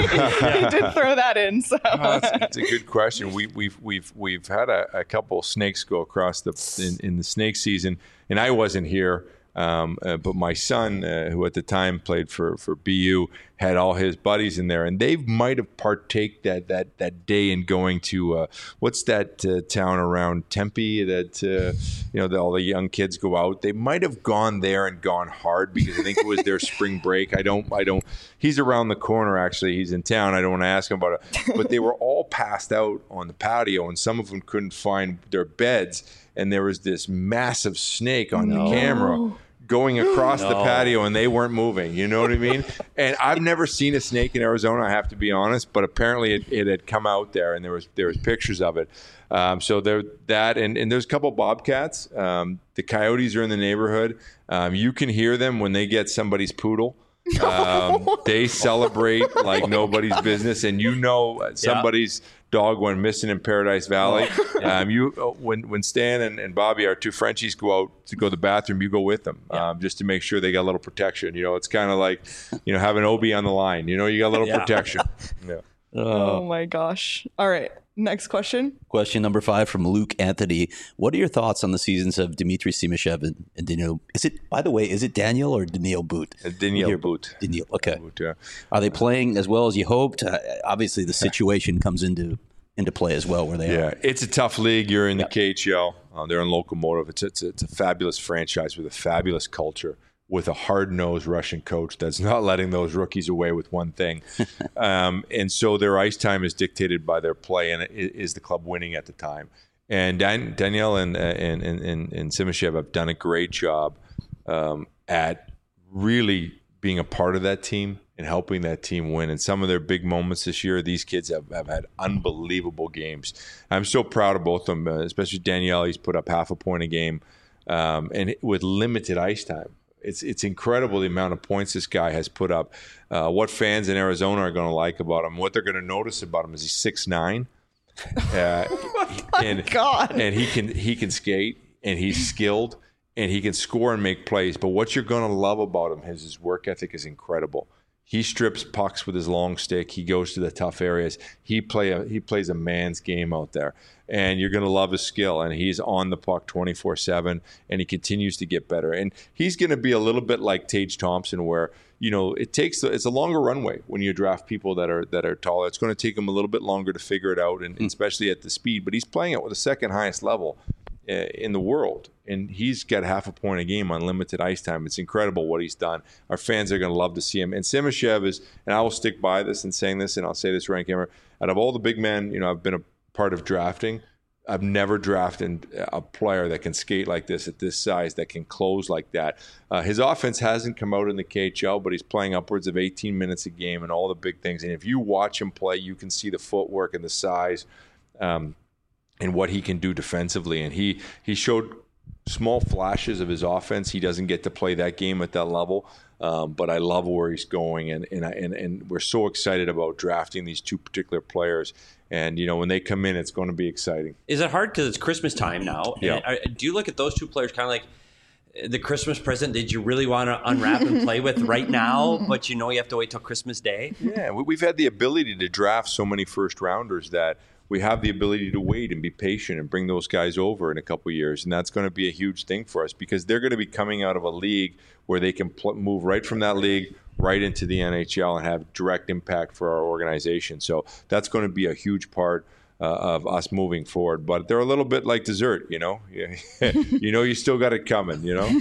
did throw that in. So oh, that's, that's a good question. We, we've we've we've had a, a couple snakes go across the in, in the snake season, and I wasn't here. Um, uh, but my son, uh, who at the time played for, for B U, had all his buddies in there, and they might have partake that that that day in going to uh, what's that uh, town around Tempe that uh, you know the, all the young kids go out. They might have gone there and gone hard because I think it was their spring break. I don't, I don't. He's around the corner actually. He's in town. I don't want to ask him about it. But they were all passed out on the patio, and some of them couldn't find their beds, and there was this massive snake on no. the camera going across no. the patio, and they weren't moving. You know what I mean? And I've never seen a snake in Arizona, I have to be honest, but apparently it, it had come out there, and there was there was pictures of it. Um, so there that, and, and there's a couple bobcats. Um, the coyotes are in the neighborhood. Um, you can hear them when they get somebody's poodle. Um, they celebrate like nobody's business, and you know somebody's yeah. dog went missing in Paradise Valley. Um, you when when Stan and, and Bobby, our two Frenchies, go out to go to the bathroom, you go with them yeah. um, just to make sure they got a little protection. You know, it's kind of like you know having Obi on the line. You know, you got a little yeah. protection. Yeah. Oh my gosh! All right. Next question. Question number five from Luke Anthony. What are your thoughts on the seasons of Dmitry Simashev and, and Daniil? Is it, by the way, is it Daniel or Daniil Boot? Uh, Daniil Boot. Daniil, okay. Boot, yeah. Are they playing as well as you hoped? Uh, obviously, the situation comes into into play as well where they yeah, are. Yeah, it's a tough league. You're in the yeah. K H L. Uh, they're in Locomotive. It's, it's it's a fabulous franchise with a fabulous culture, with a hard-nosed Russian coach that's not letting those rookies away with one thing. um, and so their ice time is dictated by their play, and is the club winning at the time. And Dan, Danielle and, and, and, and Simashev have done a great job um, at really being a part of that team and helping that team win. And some of their big moments this year, these kids have, have had unbelievable games. I'm so proud of both of them, uh, especially Danielle. He's put up half a point a game um, and with limited ice time. It's it's incredible the amount of points this guy has put up. Uh, what fans in Arizona are going to like about him, what they're going to notice about him is he's six nine. Uh, oh my and, God. and he can he can skate, and he's skilled, and he can score and make plays. But what you're going to love about him is his work ethic is incredible. He strips pucks with his long stick. He goes to the tough areas. He play a, he plays a man's game out there, and you're going to love his skill. And he's on the puck twenty-four seven, and he continues to get better. And he's going to be a little bit like Tage Thompson, where you know it takes it's a longer runway when you draft people that are that are taller. It's going to take him a little bit longer to figure it out, and, and especially at the speed. But he's playing it with the second highest level uh, in the world. And he's got half a point a game on limited ice time. It's incredible what he's done. Our fans are going to love to see him. And Simashev is, and I will stick by this and saying this, and I'll say this right on camera, out of all the big men, you know, I've been a part of drafting, I've never drafted a player that can skate like this at this size, that can close like that. Uh, his offense hasn't come out in the K H L, but he's playing upwards of eighteen minutes a game and all the big things. And if you watch him play, you can see the footwork and the size um, and what he can do defensively. And he he showed small flashes of his offense. He doesn't get to play that game at that level, um, but I love where he's going, and and, I, and and we're so excited about drafting these two particular players. And you know, when they come in, it's going to be exciting. Is it hard because it's Christmas time now? Yeah. And are, do you look at those two players kind of like the Christmas present that you really want to unwrap and play with right now, but you know you have to wait till Christmas Day? Yeah, we've had the ability to draft so many first rounders that we have the ability to wait and be patient and bring those guys over in a couple of years. And that's going to be a huge thing for us because they're going to be coming out of a league where they can pl- move right from that league right into the N H L and have direct impact for our organization. So that's going to be a huge part uh, of us moving forward. But they're a little bit like dessert, you know. You know, you still got it coming, you know.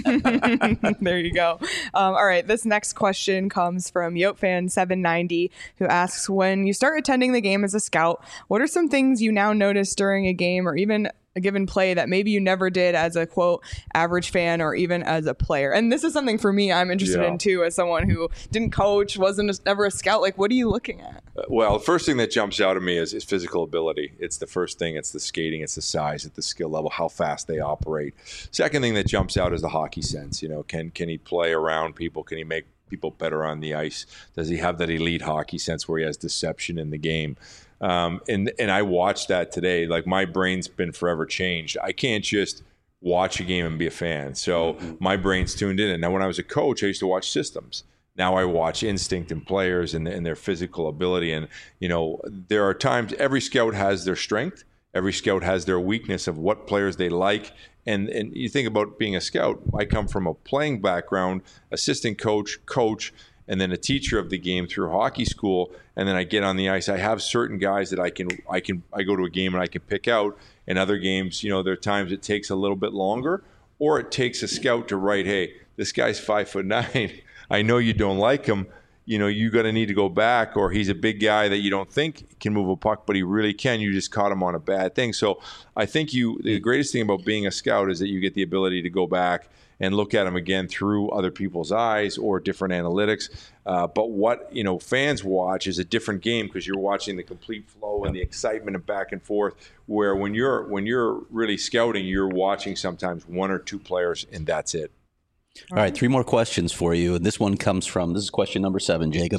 There you go. Um, all right, this next question comes from YoteFan seven ninety, who asks, when you start attending the game as a scout, what are some things you now notice during a game or even a given play that maybe you never did as a, quote, average fan or even as a player? And this is something for me I'm interested yeah. in too, as someone who didn't coach, wasn't a, never a scout. Like, what are you looking at? Uh, well, the first thing that jumps out at me is, is physical ability. It's the first thing. It's the skating. It's the size. It's the skill level, how fast they operate. Second thing that jumps out is the hockey sense. You know, can can he play around people? Can he make people better on the ice? Does he have that elite hockey sense where he has deception in the game? Um, and and I watched that today. Like, my brain's been forever changed. I can't just watch a game and be a fan. So mm-hmm. my brain's tuned in. And now when I was a coach, I used to watch systems. Now I watch instinct in players and, and their physical ability. And, you know, there are times every scout has their strength. Every scout has their weakness of what players they like. And and you think about being a scout. I come from a playing background, assistant coach, coach, and then a teacher of the game through hockey school, and then I get on the ice. I have certain guys that I can, I can, I go to a game and I can pick out. And other games, you know, there are times it takes a little bit longer, or it takes a scout to write, hey, this guy's five foot nine. I know you don't like him. You know, you're going to need to go back, or he's a big guy that you don't think can move a puck, but he really can. You just caught him on a bad thing. So I think you, the greatest thing about being a scout is that you get the ability to go back and look at them again through other people's eyes or different analytics. Uh, but what, you know, fans watch is a different game because you're watching the complete flow and the excitement and back and forth, where when you're when you're really scouting, you're watching sometimes one or two players and that's it. All right, three more questions for you. And this one comes from, this is question number seven, Jacob.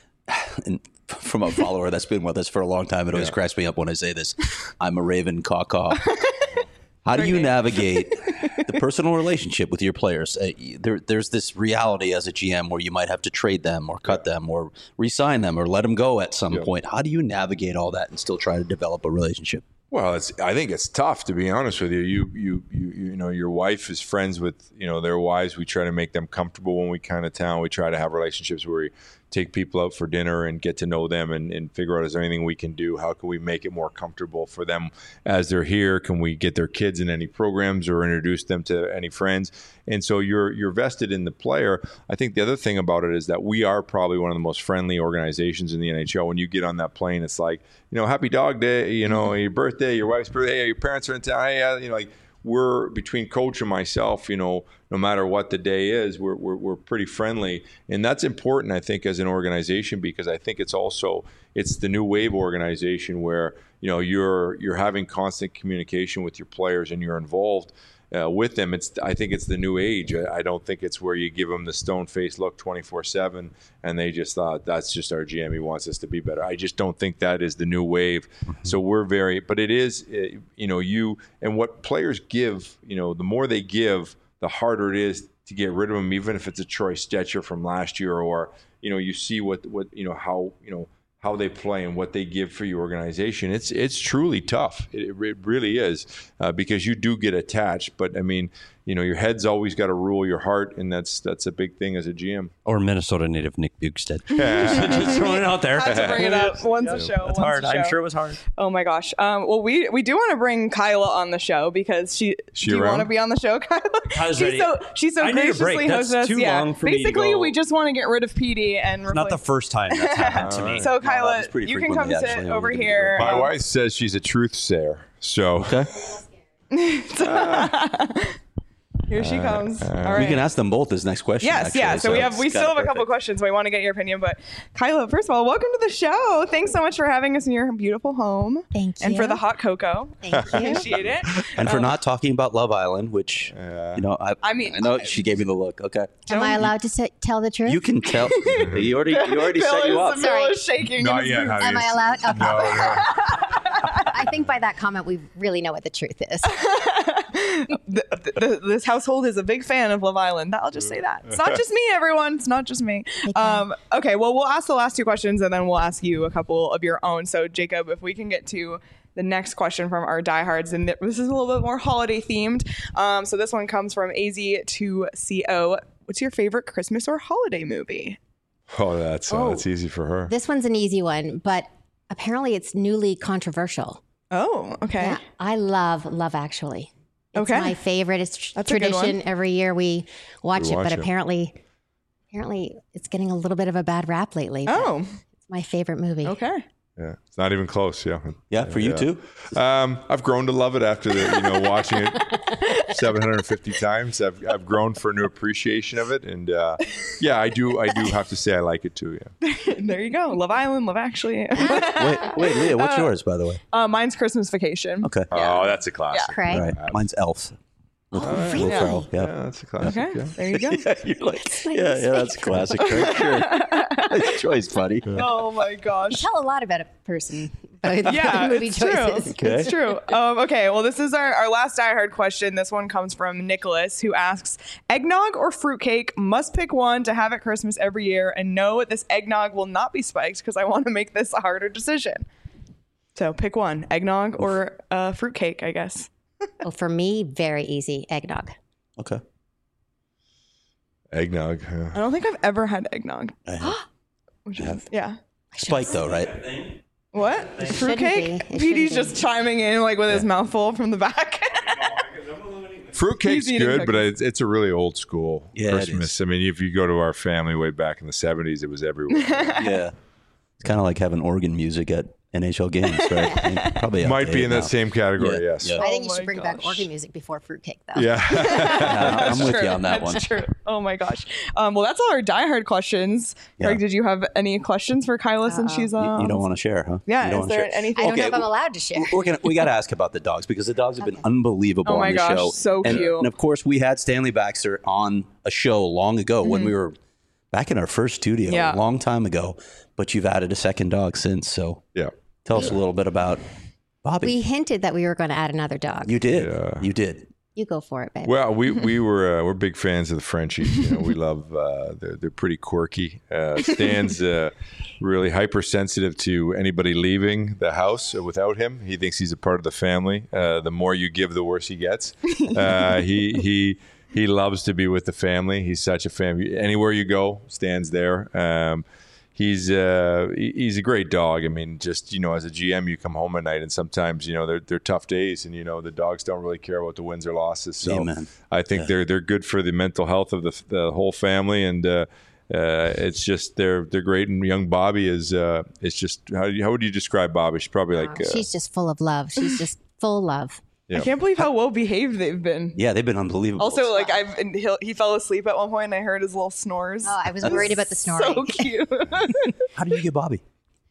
And from a follower that's been with us for a long time. It always yeah. cracks me up when I say this. I'm a Raven caw-caw. How do you navigate the personal relationship with your players? Uh, there, there's this reality as a G M where you might have to trade them or cut yeah. them or re-sign them or let them go at some yeah. point. How do you navigate all that and still try to develop a relationship? Well, it's. I think it's tough, to be honest with you. You, you, you, you know, your wife is friends with, you know, their wives. We try to make them comfortable when we come to town. We try to have relationships where we take people out for dinner and get to know them and, and figure out, is there anything we can do? How can we make it more comfortable for them as they're here? Can we get their kids in any programs or introduce them to any friends? And so you're you're vested in the player. I think the other thing about it is that we are probably one of the most friendly organizations in the N H L. When you get on that plane, it's like, you know, happy dog day, you know, your birthday, your wife's birthday, your parents are in town, hey, uh, you know, like, we're between coach and myself, you know, no matter what the day is, we're, we're we're pretty friendly. And that's important, I think, as an organization, because I think it's also, it's the new wave organization where, you know, you're you're having constant communication with your players and you're involved uh, with them. It's I think it's the new age. I, I don't think it's where you give them the stone-faced look twenty-four seven and they just thought, that's just our G M, he wants us to be better. I just don't think that is the new wave. Mm-hmm. So we're very, but it is, you know, you, and what players give, you know, the more they give, the harder it is to get rid of them, even if it's a Troy Stecher from last year, or, you know, you see what, what, you know, how, you know, how they play and what they give for your organization. It's it's truly tough. It, it really is, uh, because you do get attached. But I mean, you know, your head's always got to rule your heart, and that's that's a big thing as a G M. Or Minnesota native Nick Bukestad. Just throwing it out there. Had to bring it up once yeah. a show. That's once hard. A show. I'm sure it was hard. Oh my gosh. Um, well, we we do want to bring Kyla on the show because she. She do you around? want to be on the show, Kyla? Kyla's she's ready. so she's so I need a graciously break. That's hosted us. too Yeah. long for me to Basically, go. we just want to get rid of P D and Not the replace. first time that's happened to me. So Kyla, happens pretty you can come frequently, sit actually. over I'm gonna here. My Um, wife says she's a truth sayer. So Okay. Here she comes. All right. We can ask them both this next question. Yes, actually, yeah. So, we have we it's still have kinda a couple perfect. questions. So we want to get your opinion. But Kyla, first of all, welcome to the show. Thanks so much for having us in your beautiful home. Thank you. And for the hot cocoa. Thank you. Appreciate it. And for Um, not talking about Love Island, which, you know, I, I mean, I know I- she gave me the look. Okay. Am I allowed to s- tell the truth? You can tell. you already, you already Bill set you is- up. Bill Sorry. is shaking. not in his yet, boots. honey. Am I allowed? Okay. No, no. I think by that comment, we really know what the truth is. the, the, this household is a big fan of Love Island. I'll just say that. It's not just me, everyone. It's not just me. Um, okay, well, we'll ask the last two questions and then we'll ask you a couple of your own. So, Jacob, if we can get to the next question from our diehards, and this is a little bit more holiday themed. Um, so, this one comes from A Z two C O. What's your favorite Christmas or holiday movie? Oh, that's uh, Oh. that's easy for her. This one's an easy one, but apparently it's newly controversial. Oh, okay. Yeah, I love Love Actually. It's Okay. my favorite. It's tr- That's a good tradition. one. Every year we watch We it, watch but it. apparently, apparently it's getting a little bit of a bad rap lately. but Oh, It's my favorite movie. okay. Yeah, it's not even close. Yeah. Yeah, for you Yeah. too. Um, I've grown to love it after the, you know, watching it seven hundred fifty times. I've I've grown for a new appreciation of it, and uh, yeah, I do I do have to say I like it too. Yeah. There you go. Love Island, Love Actually. Wait, wait, Leah, what's yours, by the way? uh, mine's Christmas Vacation. Okay. Oh, that's a classic. Craig? All right. Mine's Elf. Will really? Ferrell, Yeah, Yeah. that's a classic. Okay, Yeah. there you go. Yeah, you're like, yeah, yeah, that's a classic. Right? Sure. Nice choice, buddy. Oh my gosh. Tell a lot about a person. About Yeah, movie it's choices. true. It's true. Um, okay, well, this is our, our last Die Hard question. This one comes from Nicholas, who asks, eggnog or fruitcake? Must pick one to have at Christmas every year. And no, this eggnog will not be spiked because I want to make this a harder decision. So pick one, eggnog or uh, fruitcake, I guess. Well, for me, very easy. Eggnog. Okay. Eggnog. Yeah. I don't think I've ever had eggnog. I have. Which is, yeah. Spike, though, right? What? shouldn't Fruitcake? be. It P D's shouldn't just chiming in like with his mouth full from the back. Fruitcake's He's eating good, but cookies. it's, it's a really old school Yeah, it Christmas. is. I mean, if you go to our family way back in the seventies, it was everywhere. Yeah. It's kind of like having organ music at N H L games, right? And probably Might be outdated in that now. same category, Yeah, yes. yeah. I think you Oh should my bring back gosh. organ music before fruitcake, though. Yeah. Yeah, I'm with True. you on that That's one. true. Oh my gosh. Um, well, that's all our Die Hard questions. Yeah. Greg, did you have any questions for Kyla since she's uh, You, you don't want to share, huh? Yeah, You don't is wanna there share. anything? I don't Okay, know if I'm well- allowed to share. We're gonna, we got to ask about the dogs because the dogs have been Okay. unbelievable Oh my on the gosh, show. so and, cute. And of course, we had Stanley Baxter on a show long ago when we were back in our first studio Mm-hmm. Yeah. a long time ago. But you've added a second dog since. So Yeah. tell us a little bit about Bobby. We hinted that we were going to add another dog. you did. Yeah. You did. You go for it, babe. Well, we we were uh, we're big fans of the Frenchies. You know, we love uh, they're they're pretty quirky. Uh, Stan's uh, really hypersensitive to anybody leaving the house without him. He thinks he's a part of the family. Uh, the more you give, the worse he gets. Uh, he he he loves to be with the family. He's such a fan. Anywhere you go, Stan's there. Um, He's uh, he's a great dog. I mean, just, you know, as a G M, you come home at night and sometimes, you know, they're, they're tough days and, you know, the dogs don't really care about the wins or losses. So Amen. I think Yeah. they're they're good for the mental health of the, the whole family. And uh, uh, it's just they're they're great. And young Bobby is uh, it's just how, how would you describe Bobby? She's probably like uh, She's just full of love. She's just full love. Yeah. I can't believe how well behaved they've been. Yeah, they've been unbelievable. Also, like I've and he'll, he fell asleep at one point, and I heard his little snores. Oh, I was worried about the snoring. So cute. How did you get Bobby?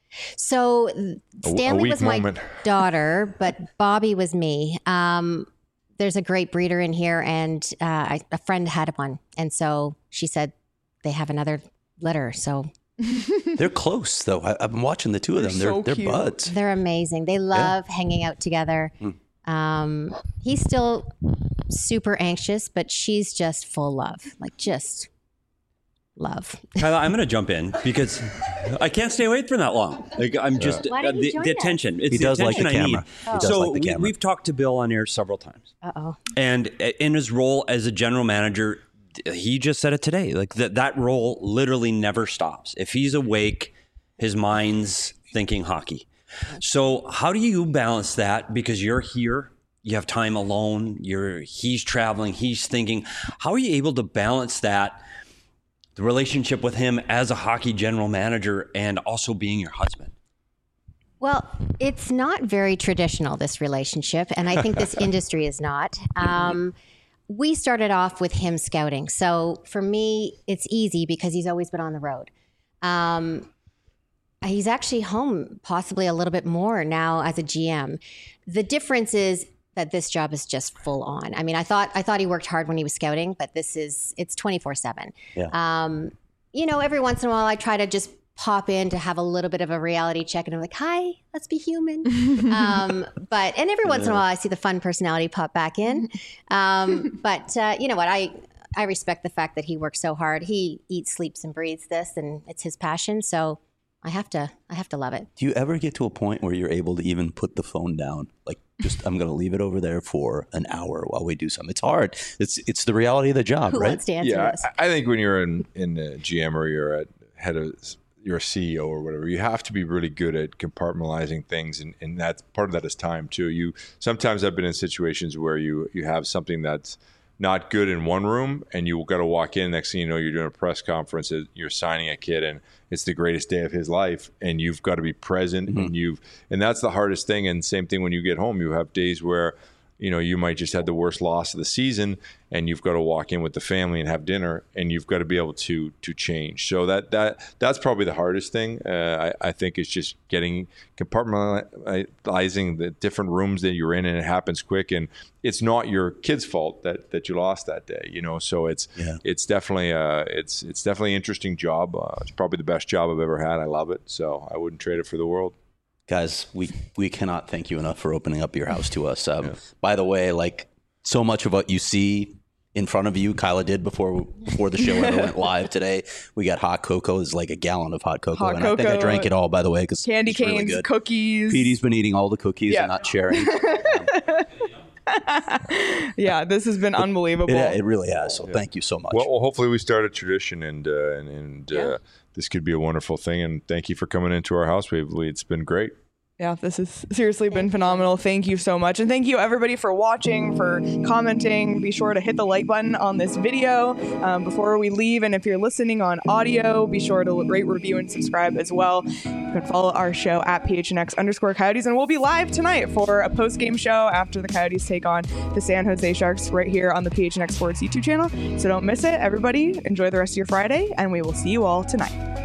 So Stanley weak was my moment. daughter, but Bobby was me. Um, there's a great breeder in here, and uh, I, a friend had one, and so she said they have another litter. So They're close, though. I, I've been watching the two of them. They're They're so they're cute. buds. they're amazing. They love hanging out together. Mm. Um, he's still super anxious, but she's just full love, like just love. Kyla, I'm going to jump in because I can't stay away for that long. Like I'm just Why don't uh, you the, join the us? attention. It's He the does like attention the I camera. need. He does so like the we, camera. we've talked to Bill on air several times, Uh oh. and in his role as a general manager, he just said it today. Like that that role literally never stops. If he's awake, his mind's thinking hockey. So how do you balance that? Because you're here. You have time alone. You're he's traveling. He's thinking. How are you able to balance that, the relationship with him as a hockey general manager and also being your husband? Well, it's not very traditional, this relationship, and I think this industry is not. Um, we started off with him scouting. So for me, it's easy because he's always been on the road. Um, he's actually home possibly a little bit more now as a G M. The difference is that this job is just full on. I mean, I thought I thought he worked hard when he was scouting, but this is it's twenty-four seven. Yeah. Um, you know, every once in a while I try to just pop in to have a little bit of a reality check and I'm like, hi, let's be human. um, but, and every once in a while I see the fun personality pop back in. Um, but uh, you know what, I, I respect the fact that he works so hard. He eats, sleeps and breathes this and it's his passion. So I have to, I have to love it. Do you ever get to a point where you're able to even put the phone down? Like, just I'm going to leave it over there for an hour while we do something. It's hard. It's it's the reality of the job, Who right? wants to answer Yeah, this? I, I think when you're in in a G M or you're at head of you're a C E O or whatever, you have to be really good at compartmentalizing things, and, and that's part of that is time too. You sometimes I've been in situations where you you have something that's not good in one room, and you got to walk in. Next thing you know, you're doing a press conference. You're signing a kid, and it's the greatest day of his life, and you've got to be present. Mm-hmm. And you've and that's the hardest thing. And same thing when you get home, you have days where you know you might just have the worst loss of the season, and you've got to walk in with the family and have dinner, and you've got to be able to to change. So that that that's probably the hardest thing. Uh, I, I think it's just getting compartmentalizing the different rooms that you're in, and it happens quick. And it's not your kid's fault that that you lost that day, you know. So it's Yeah. it's definitely uh it's it's definitely an interesting job. Uh, it's probably the best job I've ever had. I love it, so I wouldn't trade it for the world. Guys, we we cannot thank you enough for opening up your house to us. Um, By the way, like so much of what you see in front of you, Kyla did before before the show ever went live today. We got hot cocoa. It's like a gallon of hot cocoa, Hot and I think I cocoa, drank it all. By the way, because Candy it's really canes, good. cookies. Petey's been eating all the cookies Yeah. and not sharing. Yeah, this has been unbelievable. It, it really has. So thank you so much. Well, well, hopefully we start a tradition, and uh, and, and uh, this could be a wonderful thing. And thank you for coming into our house. We've, we, it's been great. Yeah, this has seriously been phenomenal. Thank you so much. And thank you everybody for watching, for commenting. Be sure to hit the like button on this video um, before we leave. And if you're listening on audio, be sure to rate, review, and subscribe as well. You can follow our show at P H N X underscore Coyotes. And we'll be live tonight for a post-game show after the Coyotes take on the San Jose Sharks right here on the P H N X Sports YouTube channel. So don't miss it. Everybody, enjoy the rest of your Friday, and we will see you all tonight.